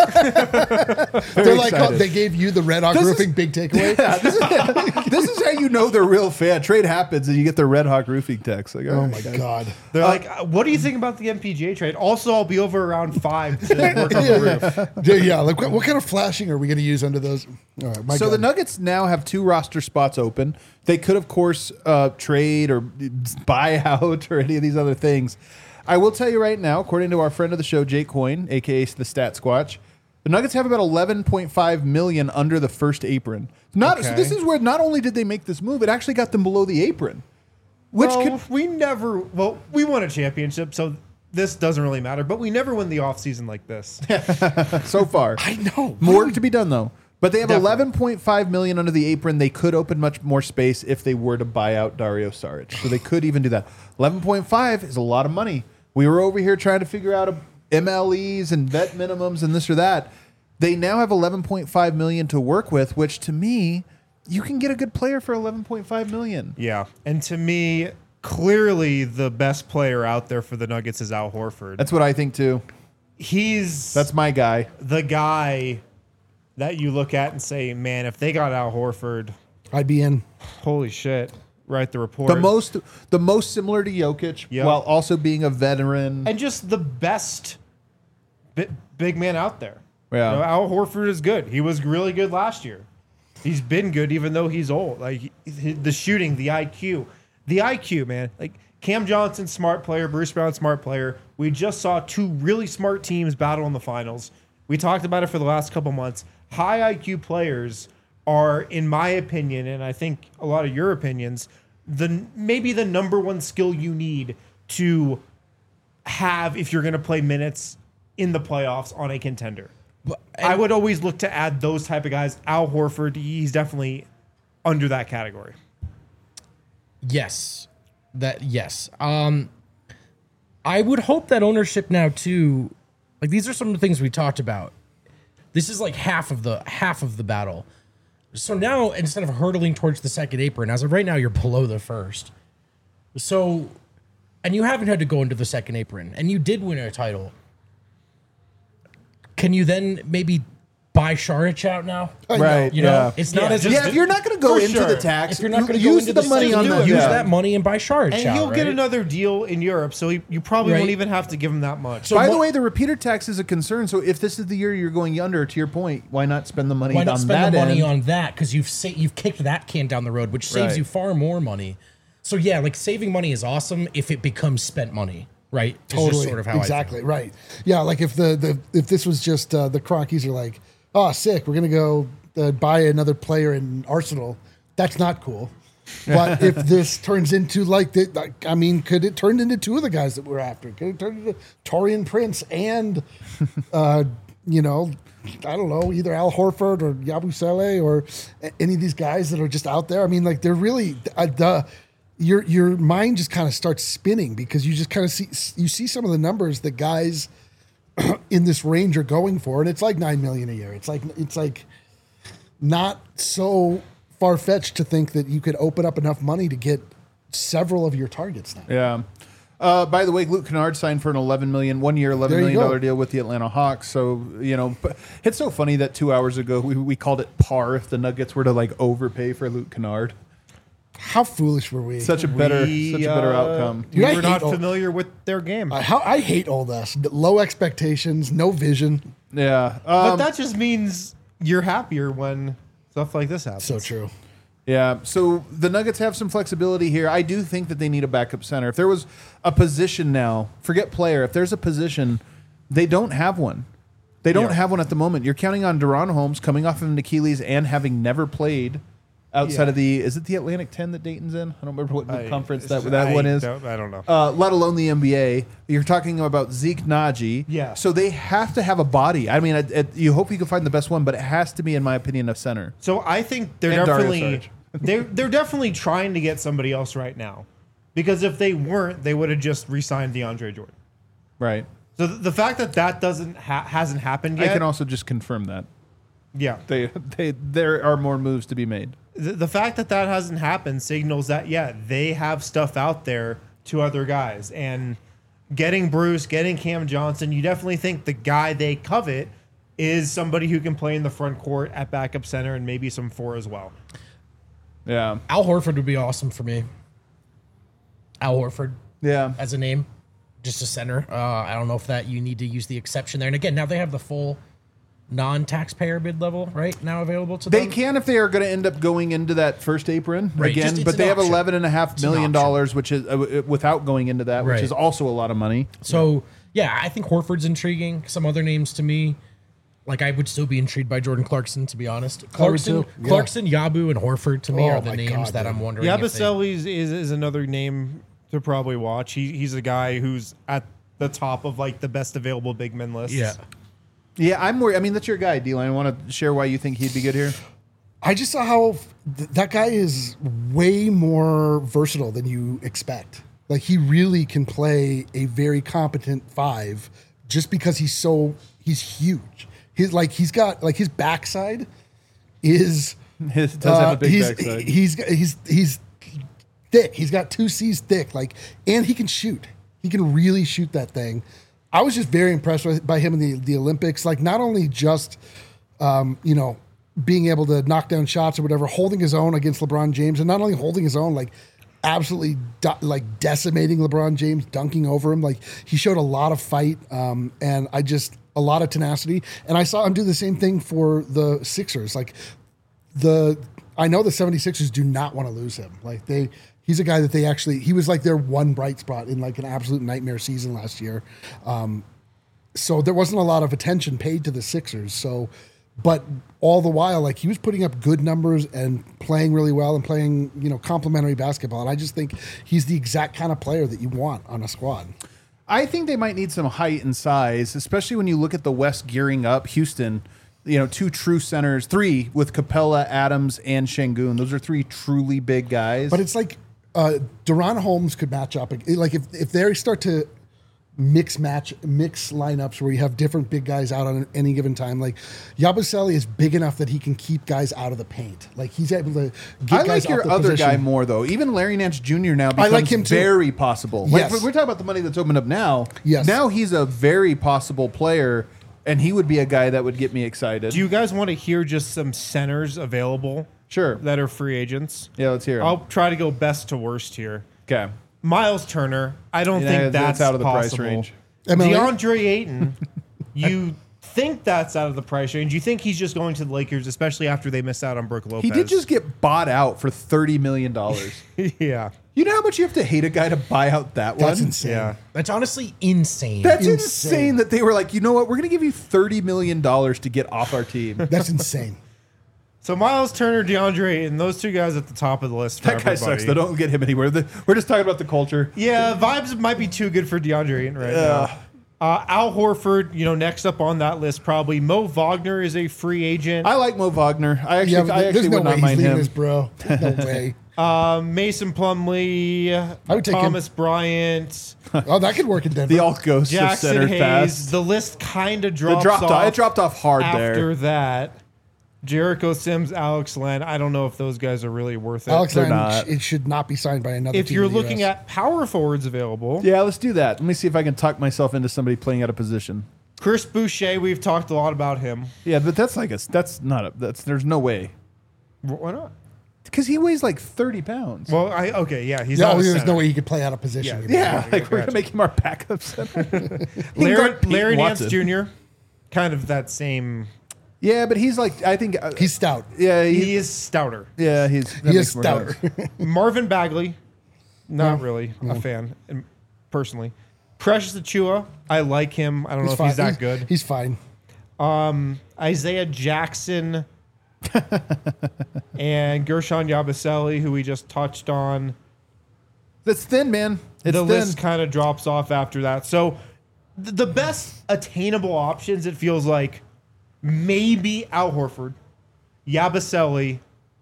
They're like, excited. oh, they gave you the Red Hawk This is- Roofing big takeaway. Yeah, this, is, this is how you know they're real fan. Trade happens and you get the Red Hawk Roofing tax. Like, Oh all my right, guys. God. They're like, uh, what do you think about the M P G A trade? Also, I'll be over around five to work on the roof. Yeah, yeah, like what, what kind of flashing are we going to use under those? All right, my So God. the Nuggets now have two roster spots open. They could, of course, uh, trade or buy out or any of these other things. I will tell you right now, according to our friend of the show, Jake Coyne, aka the Stat Squatch, the Nuggets have about eleven point five million under the first apron. Not so Okay. this is where not only did they make this move, it actually got them below the apron, which well, could we never, well, we won a championship, so this doesn't really matter, but we never win the offseason like this. so far. I know. More to be done though. But they have Definitely. eleven point five million under the apron. They could open much more space if they were to buy out Dario Saric. So they could even do that. eleven point five is a lot of money. We were over here trying to figure out a M L Es and vet minimums and this or that. They now have eleven point five million to work with, which to me, you can get a good player for eleven point five million. Yeah. And to me, clearly the best player out there for the Nuggets is Al Horford. That's what I think too. He's That's my guy. the guy that you look at and say, man, if they got Al Horford, I'd be in. holy shit, write the report. The most the most similar to Jokic Yep. while also being a veteran. and just the best bi- big man out there. Yeah. You know, Al Horford is good. He was really good last year. He's been good even though he's old. Like he- he- the shooting, the I Q, the I Q, man. Like Cam Johnson, smart player. Bruce Brown, smart player. We just saw two really smart teams battle in the finals. We talked about it for the last couple months. High I Q players are, in my opinion, and I think a lot of your opinions, the maybe the number one skill you need to have if you're going to play minutes in the playoffs on a contender. I would always look to add those type of guys. Al Horford, he's definitely under that category. Yes. That yes. Um I would hope that ownership now too, like these are some of the things we talked about. This is like half of the half of the battle. So now instead of hurtling towards the second apron, as of right now, you're below the first. So and you haven't had to go into the second apron, and you did win a title. Can you then maybe buy Saric out now? I know. Right. You know, yeah. it's not Yeah, as just- Yeah, if you're not going to go For into sure. the tax, if you're not going to go use into the money on do that. it. Use yeah. that money and buy Saric And out, he'll get right? another deal in Europe, so he, you probably Right. won't even have to give him that much. So By the what- way, the repeater tax is a concern. So if this is the year you're going under, to your point, why not spend the money Why on not spend that the money end? on that? Because you've sa- you've kicked that can down the road, which saves Right. you far more money. So yeah, like saving money is awesome if it becomes spent money, right? It's just Totally. sort of how exactly. I feel. Right. Yeah. Like if the, the if this was just uh, the Crockies are like, oh, sick, we're gonna go uh, buy another player in Arsenal. That's not cool. But if this turns into like the, like, I mean, could it turn into two of the guys that we're after? Could it turn into Torian Prince and, uh, you know, I don't know, either Al Horford or Yabusele or a- any of these guys that are just out there? I mean, like they're really uh, the. Your your mind just kind of starts spinning because you just kind of see you see some of the numbers that guys in this range are going for, and it's like nine million a year. It's like it's like not so far fetched to think that you could open up enough money to get several of your targets now. Yeah. Uh, by the way, Luke Kennard signed for an eleven million, one year, eleven There you million dollar go. deal with the Atlanta Hawks. So you know, but it's so funny that two hours ago we, we called it par if the Nuggets were to like overpay for Luke Kennard. How foolish were we? Such a better, We, such a better uh, outcome. Dude, I we were hate not all- familiar with their game. Uh, how I hate all this. Low expectations, no vision. Yeah. but Um, that just means you're happier when stuff like this happens. So true. Yeah, so the Nuggets have some flexibility here. I do think that they need a backup center. If there was a position now, forget player, if there's a position, they don't have one. They don't Yeah. have one at the moment. You're counting on Deron Holmes coming off of an Achilles and having never played outside Yeah. of the, is it the Atlantic ten that Dayton's in? I don't remember what I- conference it's- that, that I one is. don't- I don't know. Uh, let alone the N B A. You're talking about Zeke Naji. Yeah. So they have to have a body. I mean, it, it, you hope you can find the best one, but it has to be, in my opinion, a center. So I think they're And Dario definitely Saric. they're they're definitely trying to get somebody else right now, because if they weren't, they would have just re-signed DeAndre Jordan. Right. So th- the fact that that doesn't ha- hasn't happened I yet, can also just confirm that. yeah, They, they, there are more moves to be made. the, the fact that that hasn't happened signals that yeah they have stuff out there to other guys, and getting Bruce, getting Cam Johnson, you definitely think the guy they covet is somebody who can play in the front court at backup center and maybe some four as well. Yeah. Al Horford would be awesome for me. Al Horford Yeah. as a name, just a center. Uh, I don't know if that you need to use the exception there. And again, now they have the full non-taxpayer bid level right now available to They them. can if they are going to end up going into that first apron Right, again, just it's but an they have option. eleven and a half It's an million option. dollars, which is uh, without going into that, which Right. is also a lot of money. So yeah, I think Horford's intriguing. Some other names to me, like I would still be intrigued by Jordan Clarkson, to be honest. Clarkson, too, yeah. Clarkson, Yabu, and Horford to me Oh are the my names God, that dude. I'm wondering. if they- Yabusele is, is is another name to probably watch. He he's a guy who's at the top of like the best available big men lists. Yeah. Yeah, I'm worried. I mean, that's your guy, D-Line. I want to share why you think he'd be good here. I just saw how th- that guy is way more versatile than you expect. Like he really can play a very competent five just because he's so he's huge. He's like he's got like his backside is His does have uh, a big he's, backside. he's he's he's thick. He's got two C's thick. Like and he can shoot. He can really shoot that thing. I was just very impressed with, by him in the, the Olympics. Like not only just um, you know being able to knock down shots or whatever, holding his own against LeBron James, and not only holding his own, like absolutely do- like decimating LeBron James, dunking over him. Like he showed a lot of fight, um, and I just a lot of tenacity. And I saw him do the same thing for the Sixers. Like the I know the 76ers do not want to lose him. Like they he's a guy that they actually he was like their one bright spot in like an absolute nightmare season last year. Um, so there wasn't a lot of attention paid to the Sixers. So but all the while like he was putting up good numbers and playing really well and playing, you know, complimentary basketball. And I just think he's the exact kind of player that you want on a squad. I think they might need some height and size, especially when you look at the West gearing up. Houston, you know, two true centers, three with Capella, Adams, and Şengün. Those are three truly big guys. But it's like uh, Deron Holmes could match up. Like if, if they start to mix match mix lineups where you have different big guys out on any given time, like Yabusele is big enough that he can keep guys out of the paint. Like he's able to get I guys like your off the other position. guy more, though. Even Larry Nance Junior now I becomes like him too. very possible. Like, Yes. we're talking about the money that's opened up now. Yes. Now he's a very possible player, and he would be a guy that would get me excited. Do you guys want to hear just some centers available Sure. that are free agents? Yeah, let's hear it. I'll try to go best to worst here. Okay. Miles Turner, I don't Yeah, think that's that's out of the price possible. range. M L A? DeAndre Ayton, you think that's out of the price range. You think he's just going to the Lakers, especially after they miss out on Brook Lopez. He did just get bought out for thirty million dollars. yeah. You know how much you have to hate a guy to buy out that one? That's insane. Yeah. That's honestly insane. That's insane. Insane. that they were like, you know what? We're going to give you thirty million dollars to get off our team. That's insane. So Miles Turner, DeAndre Ayton, those two guys at the top of the list for That guy everybody. sucks. They don't get him anywhere. The- We're just talking about the culture. Yeah, vibes might be too good for DeAndre Ayton right now. Uh, Al Horford, you know, next up on that list probably. Mo Wagner is a free agent. I like Mo Wagner. I actually, Yeah, but I there's actually no would way not he's mind leaving him. us, bro. There's no way. Um, Mason Plumlee, I would take him. Thomas Bryant, Oh, that could work in Denver. The alt ghost of Jackson center Hayes. pass. The list kind of It drops dropped off. off. It dropped off hard after there. that. Jericho Sims, Alex Len. I don't know if those guys are really worth it. Alex They're Len, not. it should not be signed by another if team you're in the looking U S. at power forwards available, Yeah, let's do that. Let me see if I can tuck myself into somebody playing out of position. Chris Boucher, we've talked a lot about him. Yeah, but that's like a that's not a that's there's no way Wh- Why not? because he weighs like thirty pounds. Well, I okay, yeah, he's No, not a there's center. no way he could play out of position. Yeah. yeah, like we're gotcha. gonna make him our backup center. He can Larry, guard Peyton Larry Nance Watson. Junior, kind of that same. Yeah, but he's like I think uh, He's stout. yeah he, He is stouter. yeah he's that He makes is more stouter. sense. Marvin Bagley, not No. really a fan, um, personally. Precious Achua, I like him. I don't know He's if fine. he's that good. He's fine. Isaiah Jackson and Gershon Yabusele, who we just touched on. That's thin, man. It's the thin. list kind of drops off after that. So th- the best attainable options, it feels like, maybe Al Horford, Yabusele,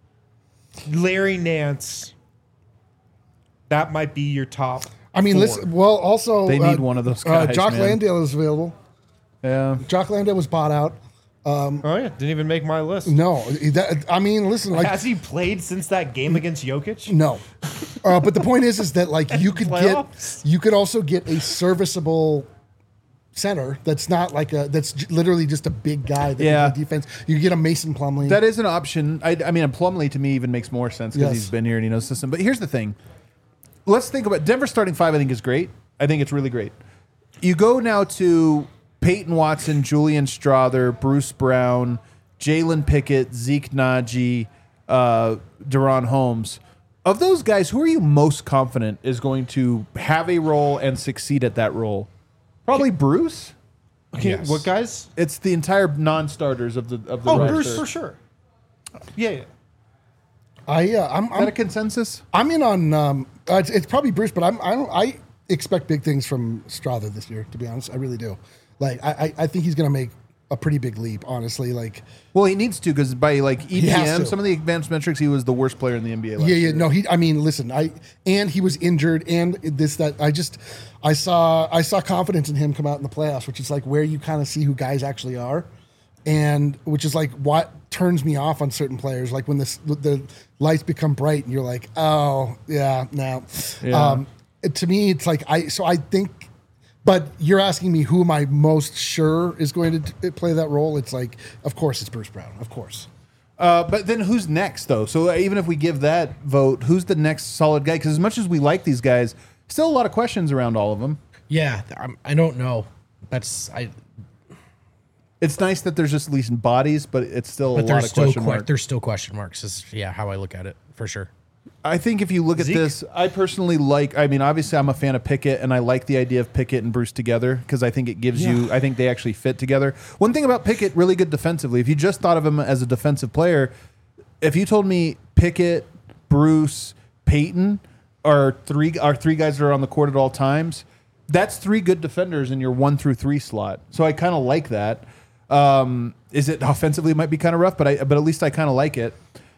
Larry Nance. That might be your top. I mean, four. listen. Well, also They need uh, one of those Uh, guys, Jock man. Landale is available. Yeah. Jock Landale was bought out. Oh yeah, didn't even make my list. No, that, I mean, listen, like Has he played since that game against Jokic? no. Uh, but the point is, is that like you could Playoffs? get, you could also get a serviceable center that's not like a that's j- literally just a big guy that Yeah. can play defense. You could get a Mason Plumlee. That is an option. I, I mean, a Plumlee to me even makes more sense because Yes. he's been here and he knows the system. But here's the thing. Let's think about Denver starting five. I think is great. I think it's really great. You go now to Peyton Watson, Julian Strother, Bruce Brown, Jalen Pickett, Zeke Naji, uh, Deron Holmes. Of those guys, who are you most confident is going to have a role and succeed at that role? Probably Bruce. Okay, Yes. what guys? It's the entire non-starters of the of the Oh, roster. Bruce for sure. Yeah, yeah. I uh, I'm Is that I'm, a consensus? I'm in on um, uh, it's, it's probably Bruce, but I'm I don't I expect big things from Strother this year. To be honest, I really do. Like I I, I think he's gonna make a pretty big leap. Honestly, like Well, he needs to because by like E P has M, to. some of the advanced metrics, he was the worst player in the N B A. Last yeah, yeah, year. no, he. I mean, listen, I and he was injured, and this that I just, I saw I saw confidence in him come out in the playoffs, which is like where you kind of see who guys actually are, and which is like what turns me off on certain players, like when this the lights become bright and you're like, oh yeah, no, Yeah. um, it- to me it's like I so I think. But you're asking me who am I most sure is going to t- play that role? It's like, of course, it's Bruce Brown. Of course. Uh, but then who's next though? So even if we give that vote, who's the next solid guy? Because as much as we like these guys, still a lot of questions around all of them. Yeah, I'm, I don't know. That's I. It's nice that there's just at least bodies, but it's still But a lot there's of still question que- marks. there's still question marks. Is yeah how I look at it for sure. I think if you look at Zeke? this, I personally like. I mean, obviously, I'm a fan of Pickett, and I like the idea of Pickett and Bruce together because I think it gives you. I think they actually fit together. One thing about Pickett, really good defensively. If you just thought of him as a defensive player, if you told me Pickett, Bruce, Peyton are three are three guys that are on the court at all times, that's three good defenders in your one through three slot. So I kind of like that. Um, is it offensively? It might be kind of rough, but I but at least I kind of like it.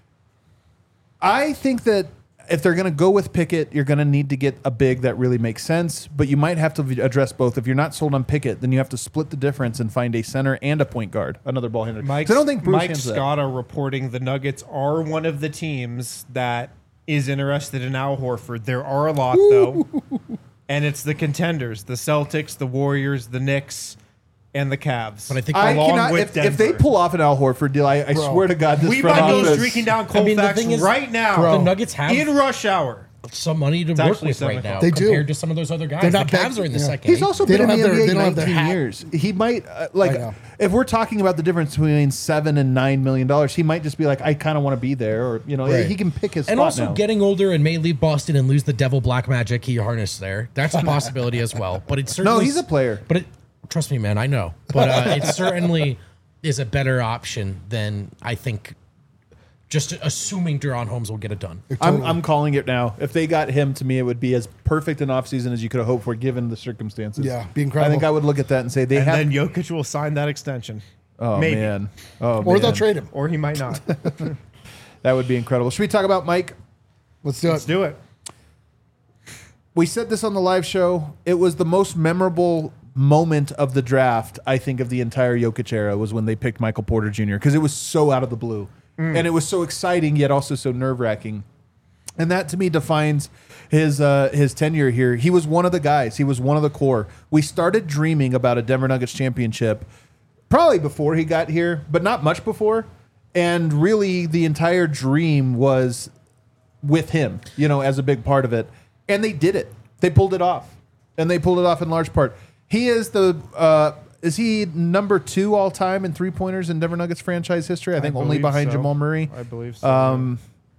I think that if they're going to go with Pickett, you're going to need to get a big that really makes sense, but you might have to address both. If you're not sold on Pickett, then you have to split the difference and find a center and a point guard, another ball handler. Mike, 'Cause I don't think Bruce Mike handles that. Scott are reporting the Nuggets are one of the teams that is interested in Al Horford. There are a lot, though. And it's the contenders, the Celtics, the Warriors, the Knicks, and the Cavs. But I think I along cannot, with if, if they Denver. pull off an Al Horford deal, I, I Bro. swear to God, this we front might go office- streaking down I mean, the Colfax thing is- right now. Bro. The Nuggets have in rush hour. some money to work actually with seven right now o'clock. They do. compared to some of those other guys. They're The not Cavs bad- are in the yeah. second. He's also They been in don't the have N B A their- they don't have their nineteen hat. years. He might uh, like I know. if we're talking about the difference between seven and nine million dollars, he might just be like, I kind of want to be there, or you know, Right. he can pick his and spot also now. getting older and may leave Boston and lose the devil black magic he harnessed there. That's a possibility as well. But it's certainly no, he's a player. But it, trust me, man, I know. But uh, it certainly is a better option than I think. Just assuming Deron Holmes will get it done. I'm, I'm calling it now. If they got him, to me, it would be as perfect an offseason as you could have hoped for, given the circumstances. Yeah, be incredible. I think I would look at that and say they And have. then Jokic will sign that extension. oh maybe. man, oh Or man. they'll trade him. Or he might not. That would be incredible. Should we talk about Mike? Let's do Let's it. do it. We said this on the live show. It was the most memorable moment of the draft, I think, of the entire Jokic era was when they picked Michael Porter Junior because it was so out of the blue. Mm. And it was so exciting, yet also so nerve-wracking. And that, to me, defines his uh, his tenure here. He was one of the guys. He was one of the core. We started dreaming about a Denver Nuggets championship probably before he got here, but not much before. And really, the entire dream was with him, you know, as a big part of it. And they did it. They pulled it off. And they pulled it off in large part. He is the uh, is he number two all time in three pointers in Denver Nuggets franchise history? I think I only believe behind so. Jamal Murray. I believe so. Um,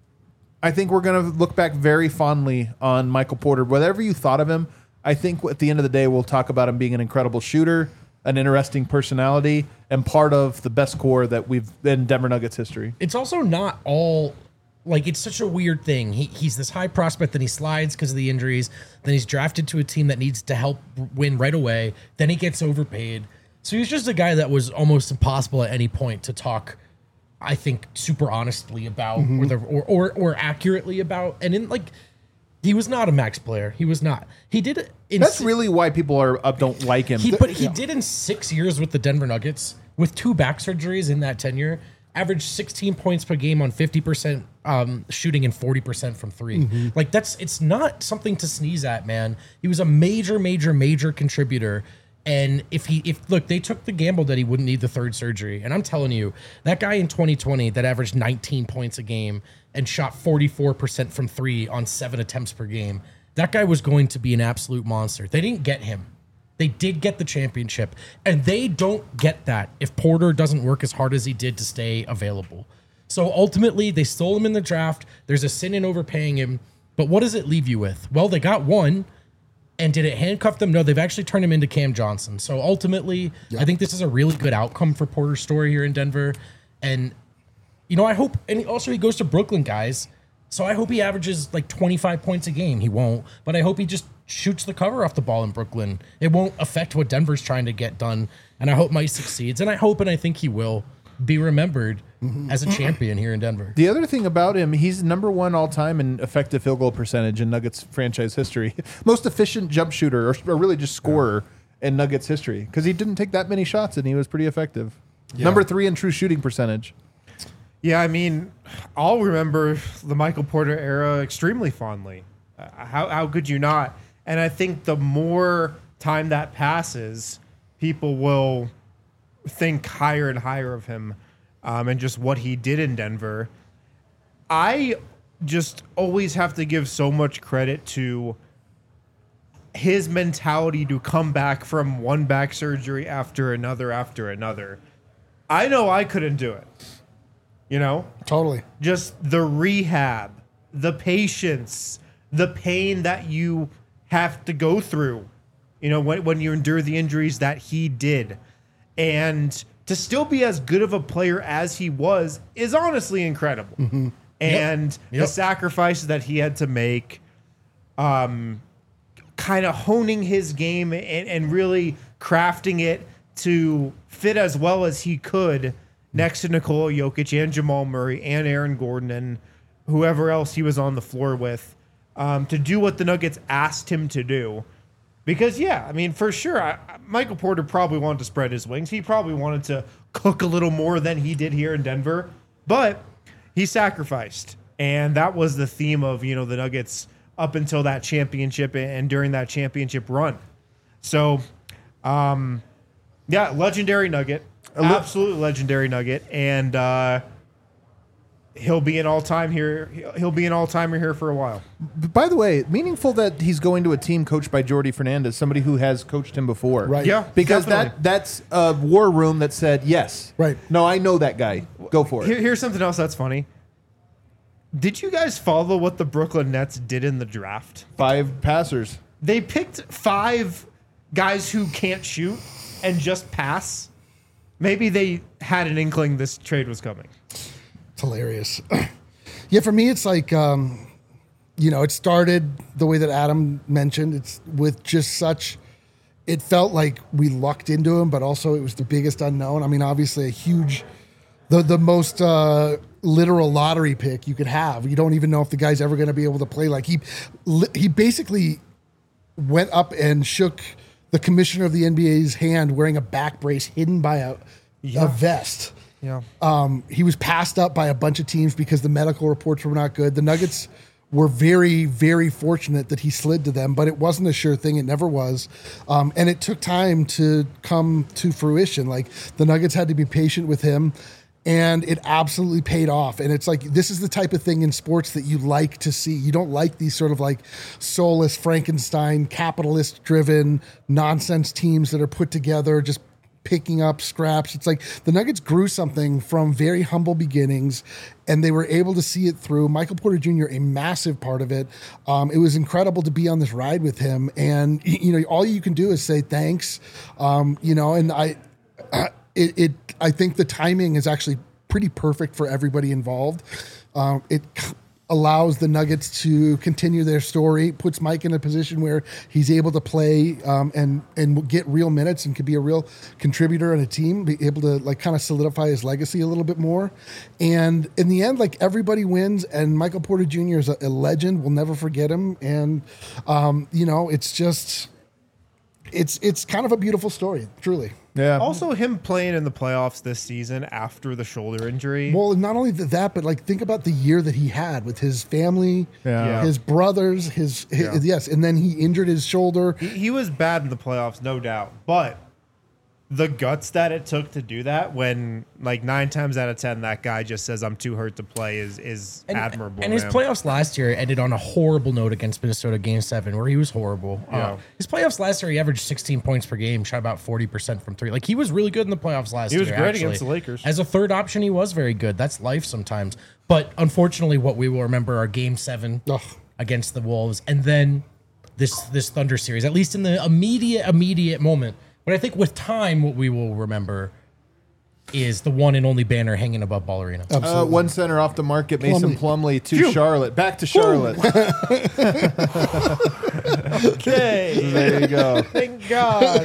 I think we're going to look back very fondly on Michael Porter. Whatever you thought of him, I think at the end of the day, we'll talk about him being an incredible shooter, an interesting personality, and part of the best core that we've in Denver Nuggets history. It's also not all like it's such a weird thing. He, he's this high prospect, then he slides because of the injuries. Then he's drafted to a team that needs to help win right away. Then he gets overpaid. So he's just a guy that was almost impossible at any point to talk, I think, super honestly about mm-hmm. or, the, or or or accurately about. And in like, he was not a max player. He was not. He did it. In That's si- really why people are uh, don't like him. He, but he yeah. did in six years with the Denver Nuggets with two back surgeries in that tenure. Averaged sixteen points per game on fifty percent um, shooting and forty percent from three. Mm-hmm. Like that's it's not something to sneeze at, man. He was a major, major, major contributor. And if he, if look, they took the gamble that he wouldn't need the third surgery. And I'm telling you, that guy in twenty twenty that averaged nineteen points a game and shot forty-four percent from three on seven attempts per game, that guy was going to be an absolute monster. They didn't get him. They did get the championship, and they don't get that if Porter doesn't work as hard as he did to stay available. So ultimately, they stole him in the draft. There's a sin in overpaying him, but what does it leave you with? Well, they got one, and did it handcuff them? No, they've actually turned him into Cam Johnson. So ultimately, yeah. I think this is a really good outcome for Porter's story here in Denver. And, you know, I hope, and also he goes to Brooklyn, guys. So I hope he averages like twenty-five points a game. He won't, but I hope he just shoots the cover off the ball in Brooklyn. It won't affect what Denver's trying to get done. And I hope Mike succeeds. And I hope and I think he will be remembered mm-hmm. as a champion here in Denver. The other thing about him, he's number one all time in effective field goal percentage in Nuggets franchise history. Most efficient jump shooter, or, or really just scorer yeah. in Nuggets history, because he didn't take that many shots and he was pretty effective. Yeah. Number three in true shooting percentage. Yeah, I mean, I'll remember the Michael Porter era extremely fondly. Uh, how how could you not? And I think the more time that passes, people will think higher and higher of him um, and just what he did in Denver. I just always have to give so much credit to his mentality to come back from one back surgery after another after another. I know I couldn't do it. You know? Totally. Just the rehab, the patience, the pain that you have to go through, you know, when, when you endure the injuries that he did. And to still be as good of a player as he was is honestly incredible. Mm-hmm. And yep. Yep. the sacrifices that he had to make, um, kind of honing his game and, and really crafting it to fit as well as he could next to Nikola Jokic and Jamal Murray and Aaron Gordon and whoever else he was on the floor with, um, to do what the Nuggets asked him to do. Because, yeah, I mean, for sure, I, Michael Porter probably wanted to spread his wings. He probably wanted to cook a little more than he did here in Denver. But he sacrificed. And that was the theme of, you know, the Nuggets up until that championship and during that championship run. So, um, yeah, legendary Nugget. Absolutely legendary Nugget, and uh, he'll be an all-time here. He'll be an all-timer here for a while. By the way, meaningful that he's going to a team coached by Jordi Fernandez, somebody who has coached him before. Right. Yeah, because definitely. that that's a war room that said yes. Right. No, I know that guy. Go for it. Here, here's something else that's funny. Did you guys follow what the Brooklyn Nets did in the draft? Five passers. They picked five guys who can't shoot and just pass. Maybe they had an inkling this trade was coming. It's hilarious. Yeah, for me, it's like, um, you know, it started the way that Adam mentioned. It's with just such, it felt like we lucked into him, but also it was the biggest unknown. I mean, obviously a huge, the, the most uh, literal lottery pick you could have. You don't even know if the guy's ever going to be able to play. Like he, he basically went up and shook the commissioner of the N B A's hand wearing a back brace hidden by a, Yeah. a vest. Yeah. Um, he was passed up by a bunch of teams because the medical reports were not good. The Nuggets were very, very fortunate that he slid to them, but it wasn't a sure thing. It never was. Um, and it took time to come to fruition. Like the Nuggets had to be patient with him, and it absolutely paid off. And it's like, this is the type of thing in sports that you like to see. You don't like these sort of like soulless Frankenstein, capitalist driven nonsense teams that are put together, just picking up scraps. It's like the Nuggets grew something from very humble beginnings, and they were able to see it through. Michael Porter Junior, a massive part of it. Um, it was incredible to be on this ride with him, and you know, all you can do is say thanks. Um, you know, and I, it, it, I think the timing is actually pretty perfect for everybody involved. Um, it allows the Nuggets to continue their story, puts Mike in a position where he's able to play um, and and get real minutes and could be a real contributor on a team, be able to like kind of solidify his legacy a little bit more. And in the end, like everybody wins, and Michael Porter Junior is a, a legend. We'll never forget him. And um, you know, it's just it's it's kind of a beautiful story, truly. Yeah. Also, him playing in the playoffs this season after the shoulder injury. Well, not only th- that, but like think about the year that he had with his family, Yeah. his brothers, his, his Yeah. yes, and then he injured his shoulder. He, he was bad in the playoffs, no doubt. But the guts that it took to do that, when like nine times out of ten that guy just says I'm too hurt to play, is is And, admirable. and his man. playoffs last year ended on a horrible note against Minnesota Game Seven, where he was horrible. Yeah. Uh, his playoffs last year, he averaged sixteen points per game, shot about forty percent from three. Like he was really good in the playoffs last He year. was great actually. against the Lakers. As a third option, he was very good. That's life sometimes. But unfortunately, what we will remember are Game Seven Ugh. against the Wolves, and then this this Thunder series. At least in the immediate immediate moment. But I think with time, what we will remember is the one and only banner hanging above Ball Arena. Uh, one center off the market, Mason Plumlee to Charlotte. Back to Charlotte. Okay. There you go. Thank God.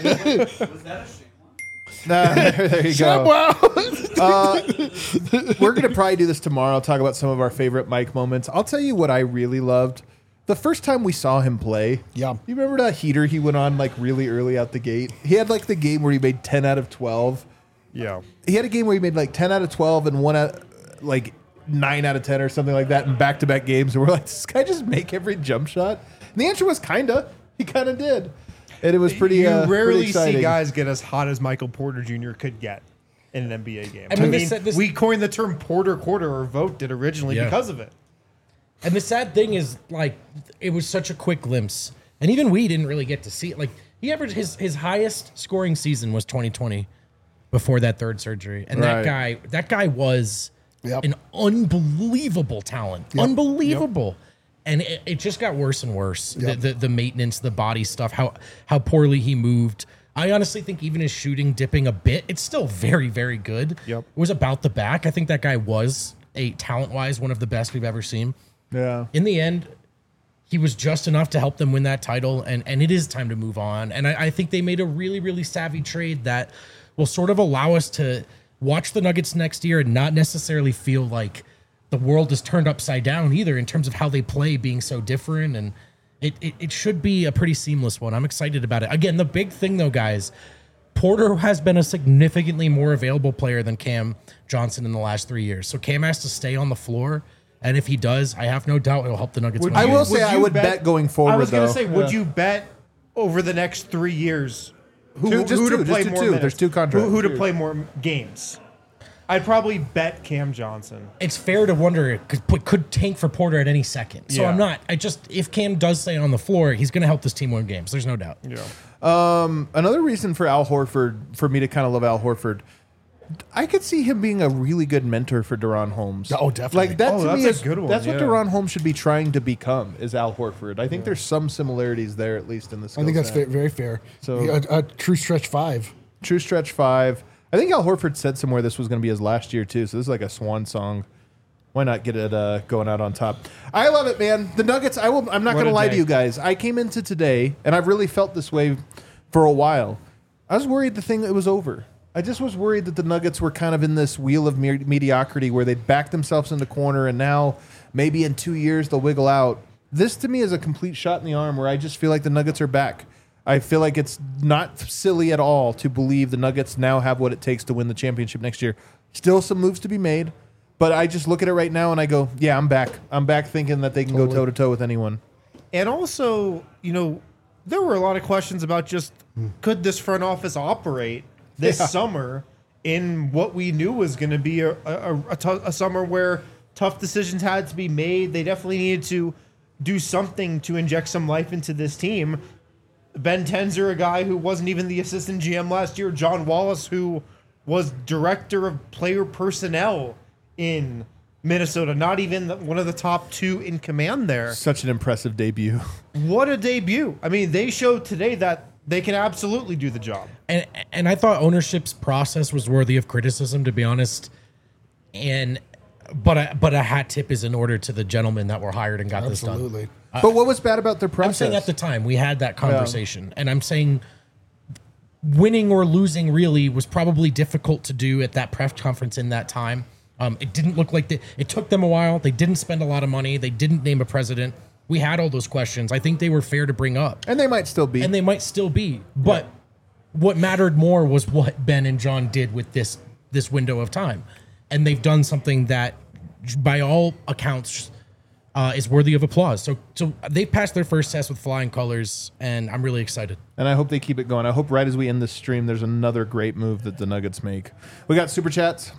Nah, there, there you go. Uh, we're going to probably do this tomorrow. I'll talk about some of our favorite Mike moments. I'll tell you what I really loved. The first time we saw him play, Yeah. you remember that heater he went on like really early out the gate? He had like the game where he made ten out of twelve. Yeah. He had a game where he made like ten out of twelve and one out like nine out of ten or something like that in back-to-back games. And we're like, does this guy just make every jump shot? And the answer was kinda. He kind of did. And it was pretty, You uh, pretty rarely exciting. see guys get as hot as Michael Porter Junior could get in an N B A game. I I mean, mean, this- this- we coined the term Porter Quarter, or Vote did originally Yeah. because of it. And the sad thing is, like, it was such a quick glimpse, and even we didn't really get to see it. Like, he averaged his his highest scoring season was twenty twenty, before that third surgery, and that Right. guy that guy was Yep. an unbelievable talent, unbelievable. And it, it just got worse and worse. The, Yep. the the maintenance, the body stuff, how how poorly he moved. I honestly think even his shooting dipping a bit, it's still very, very good. Yep. It was about the back. I think that guy was a talent wise one of the best we've ever seen. Yeah. In the end, he was just enough to help them win that title, and, and it is time to move on. And I, I think they made a really, really savvy trade that will sort of allow us to watch the Nuggets next year and not necessarily feel like the world is turned upside down either in terms of how they play being so different. And it, it, it should be a pretty seamless one. I'm excited about it. Again, the big thing, though, guys, Porter has been a significantly more available player than Cam Johnson in the last three years. So Cam has to stay on the floor. And if he does, I have no doubt it'll help the Nuggets win. I the will game. say I you would bet going forward, I was going though. to say, would Yeah. you bet over the next three years who, Two- just who two, to play just more two. minutes? There's two contracts. Who, who to play more games? I'd probably bet Cam Johnson. It's fair to wonder it could, could tank for Porter at any second. So Yeah. I'm not. I just if Cam does stay on the floor, he's going to help this team win games. There's no doubt. Yeah. Another reason for Al Horford, for me to kind of love Al Horford, I could see him being a really good mentor for De'Ron Holmes. Oh, definitely. Like that Oh, to that's me a is good one, That's what yeah. De'Ron Holmes should be trying to become. Is Al Horford? I think there's some similarities there, at least in the skill I think that's set. fa- very fair. So- So a, a true stretch five. True stretch five. I think Al Horford said somewhere this was going to be his last year too. So this is like a swan song. Why not get it uh, going out on top? I love it, man. The Nuggets. I will. I'm not What going to a lie to day. you guys. I came into today, and I've really felt this way for a while. I was worried the thing it was over. I just was worried that the Nuggets were kind of in this wheel of me- mediocrity where they'd back themselves in the corner and now maybe in two years they'll wiggle out. This to me is a complete shot in the arm where I just feel like the Nuggets are back. I feel like it's not silly at all to believe the Nuggets now have what it takes to win the championship next year. Still some moves to be made, but I just look at it right now and I go, yeah, I'm back. I'm back thinking that they can Totally. go toe-to-toe with anyone. And also, you know, there were a lot of questions about just could this front office operate this Yeah. summer in what we knew was going to be a, a, a, tou- a summer where tough decisions had to be made. They definitely needed to do something to inject some life into this team. Ben Tenzer, a guy who wasn't even the assistant G M last year. John Wallace, who was director of player personnel in Minnesota, not even the, one of the top two in command there. Such an impressive debut. What a debut. I mean, they showed today that they can absolutely do the job. And and I thought ownership's process was worthy of criticism, to be honest. And but a, but a hat tip is in order to the gentlemen that were hired and got this done. Absolutely. But what was bad about their I'm process? saying at the time we had that conversation, and I'm saying winning or losing really was probably difficult to do at that press conference in that time. Um, it didn't look like they, it took them a while. They didn't spend a lot of money. They didn't name a president. We had all those questions. I think they were fair to bring up, and they might still be. and they might still be. But what mattered more was what Ben and John did with this this window of time, and they've done something that, by all accounts, uh, is worthy of applause. So, so they passed their first test with flying colors, and I'm really excited. And I hope they keep it going. I hope right as we end this stream, there's another great move that the Nuggets make. We got super chats.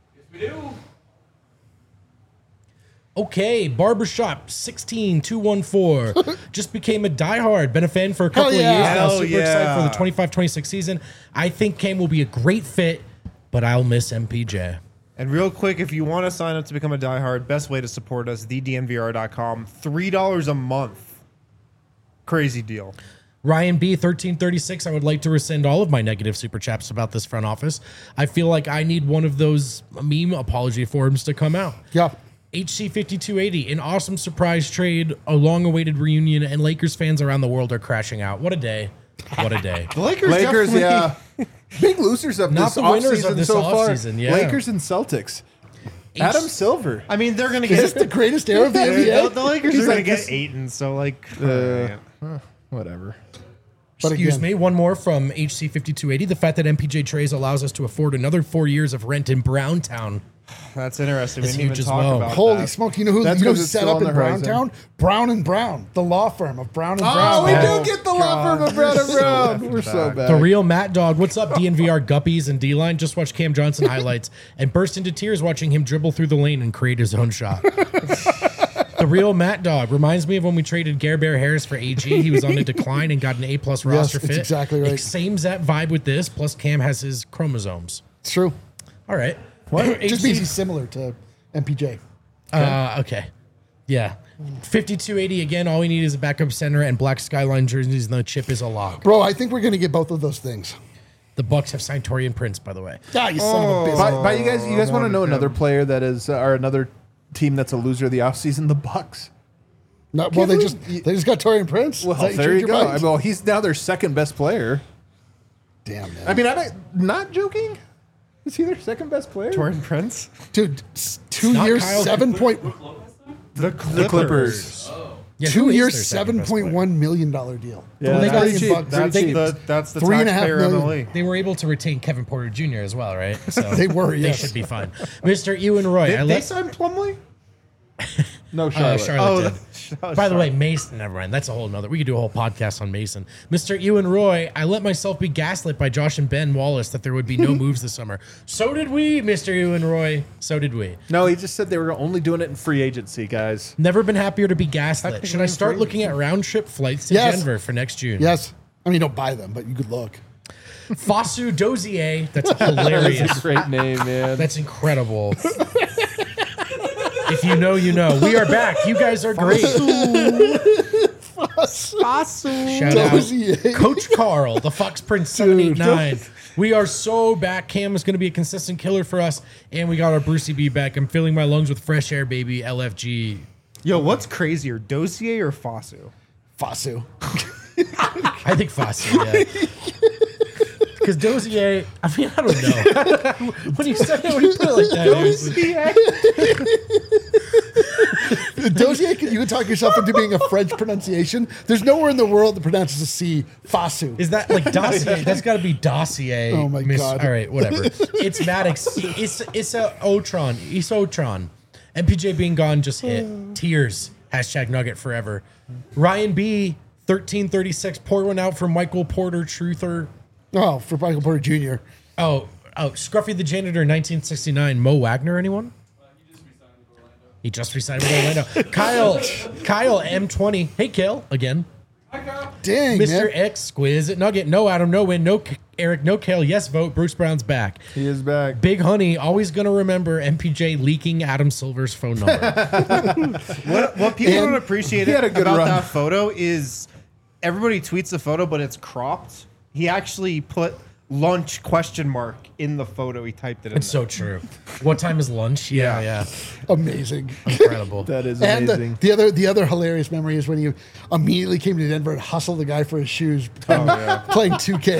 Okay, Barbershop sixteen two one four just became a diehard. Been a fan for a couple Hell yeah. of years now. Hell Super excited for yeah. the twenty-five twenty-six season. I think Cam will be a great fit, but I'll miss M P J. And real quick, if you want to sign up to become a diehard, best way to support us, the D N V R dot com. three dollars a month. Crazy deal. Ryan B thirteen thirty-six, I would like to rescind all of my negative super chats about this front office. I feel like I need one of those meme apology forums to come out. Yeah. H C fifty-two eighty, an awesome surprise trade, a long-awaited reunion, and Lakers fans around the world are crashing out. What a day. What a day. The Lakers, Lakers, definitely- yeah. Big losers of Not this the winners offseason of this so far. offseason, yeah. Lakers and Celtics. Adam Silver. I mean, they're going to Is this get... the greatest era of the N B the, A? the Lakers He's are going like to get this- Aiton, so like... Uh, Whatever. But Excuse again- me, one more from H C fifty-two eighty. The fact that M P J Trays allows us to afford another four years of rent in Browntown. That's interesting. It's we didn't huge even as talk well. about Holy that. smoke! You know who, That's you know 'cause who's it's set still up on in the horizon. Browntown? Brown and Brown, the law firm of Brown and Oh, Brown. we Oh, do get the law God. firm of Brown and So Brown. effing We're so back. bad. The real Matt Dog. What's up, D N V R guppies and D-line? Just watched Cam Johnson highlights and burst into tears watching him dribble through the lane and create his own shot. The real Matt Dog reminds me of when we traded Gare Bear Harris for A G. He was on a decline and got an A-plus roster it's fit. exactly right. Same that vibe with this, plus Cam has his chromosomes. It's true. All right. It just means he's similar to M P J. Uh, okay. Yeah. fifty-two eighty again. All we need is a backup center and black skyline jerseys, and the chip is a lock. Bro, I think we're going to get both of those things. The Bucks have signed Torian Prince, by the way. Ah, you son of a bitch. By, by you guys, you guys want to know wanted another him. player that is, uh, or another team that's a loser of the offseason? The Bucks. No, well, they Can't just believe- they just got Torian Prince. Well, Is that there change you your go. mind? I mean, well, he's now their second best player. Damn, man. I mean, I'm not joking. Is he their second best player? Jordan Prince? Dude, s- two not years, Kyle seven point The Clippers. Clippers. Yeah, who two is years, their second seven best point player? one million dollar deal. Yeah, Well, they that's got pretty him cheap. bucked. That's Pretty cheap. the, that's the Three and a half taxpayer in the million. league. They were able to retain Kevin Porter Junior as well, right? So They were, They yes. should be fine. Mister Ewan Roy. Did I they let, sign Plumlee? No, uh, Charlotte. Charlotte Oh, did. that- By the way, Mason, never mind. That's a whole nother. We could do a whole podcast on Mason. Mister Ewan Roy, I let myself be gaslit by Josh and Ben Wallace that there would be no moves this summer. So did we, Mister Ewan Roy. So did we. No, he just said they were only doing it in free agency, guys. Never been happier to be gaslit. Technically Should I start free. looking at round trip flights to Yes. Denver for next June? Yes. I mean, don't buy them, but you could look. Fosu Dozier. That's That's hilarious. a great name, man. That's incredible. If you know, you know. We are back. You guys are great. Shout Dozier. out Coach Carl, the Fox Prince seven eight nine. We are so back. Cam is going to be a consistent killer for us. And we got our Brucey B back. I'm filling my lungs with fresh air, baby. L F G. Yo, what's crazier, Dozier or Fosu? Fasu. I think Fosu, yeah. Because Dozier, I mean, I don't know. when you say it, when you put it like that, it was- Dozier, you can talk yourself into being a French pronunciation. There's nowhere in the world that pronounces a C Fasu. is that like dossier? That's got to be dossier. Oh my God. All right, whatever. It's Maddox. It's it's a Otron. It's Otron. M P J being gone just hit. Tears. Hashtag Nugget forever. Ryan B. thirteen thirty-six. Pour one out for Michael Porter Truther. Oh, for Michael Porter Junior Oh, oh, Scruffy the Janitor, nineteen sixty-nine. Mo Wagner, anyone? He just resigned with Orlando. Kyle, Kyle M twenty. Hey, Kale, again. Dang, Mister man. X, Squiz, Nugget, no Adam, no win, no K- Eric, no Kale, yes vote, Bruce Brown's back. He is back. Big Honey, always going to remember M P J leaking Adam Silver's phone number. What, what people And don't appreciate he had a good about run. that photo is everybody tweets the photo, but it's cropped. He actually put lunch question mark in the photo. He typed it in. It's so true. What time is lunch? Yeah, yeah. Amazing. Incredible. That is And amazing. the, the other the other hilarious memory is when you immediately came to Denver and hustled the guy for his shoes playing, playing two K.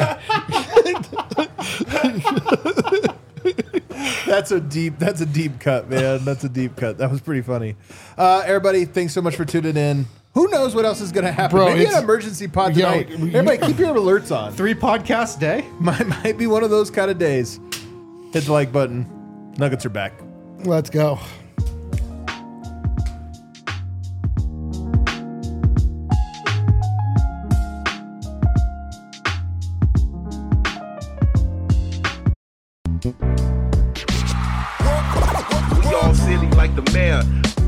That's a deep. That's a deep cut, man. That's a deep cut. That was pretty funny. Uh, everybody, thanks so much for tuning in. Who knows what else is going to happen? Bro, Maybe it's- an emergency pod Yo, tonight. you- Everybody, keep your alerts on. Three podcasts a day. Might, might be one of those kind of days. Hit the like button. Nuggets are back. Let's go. We all silly like the mayor.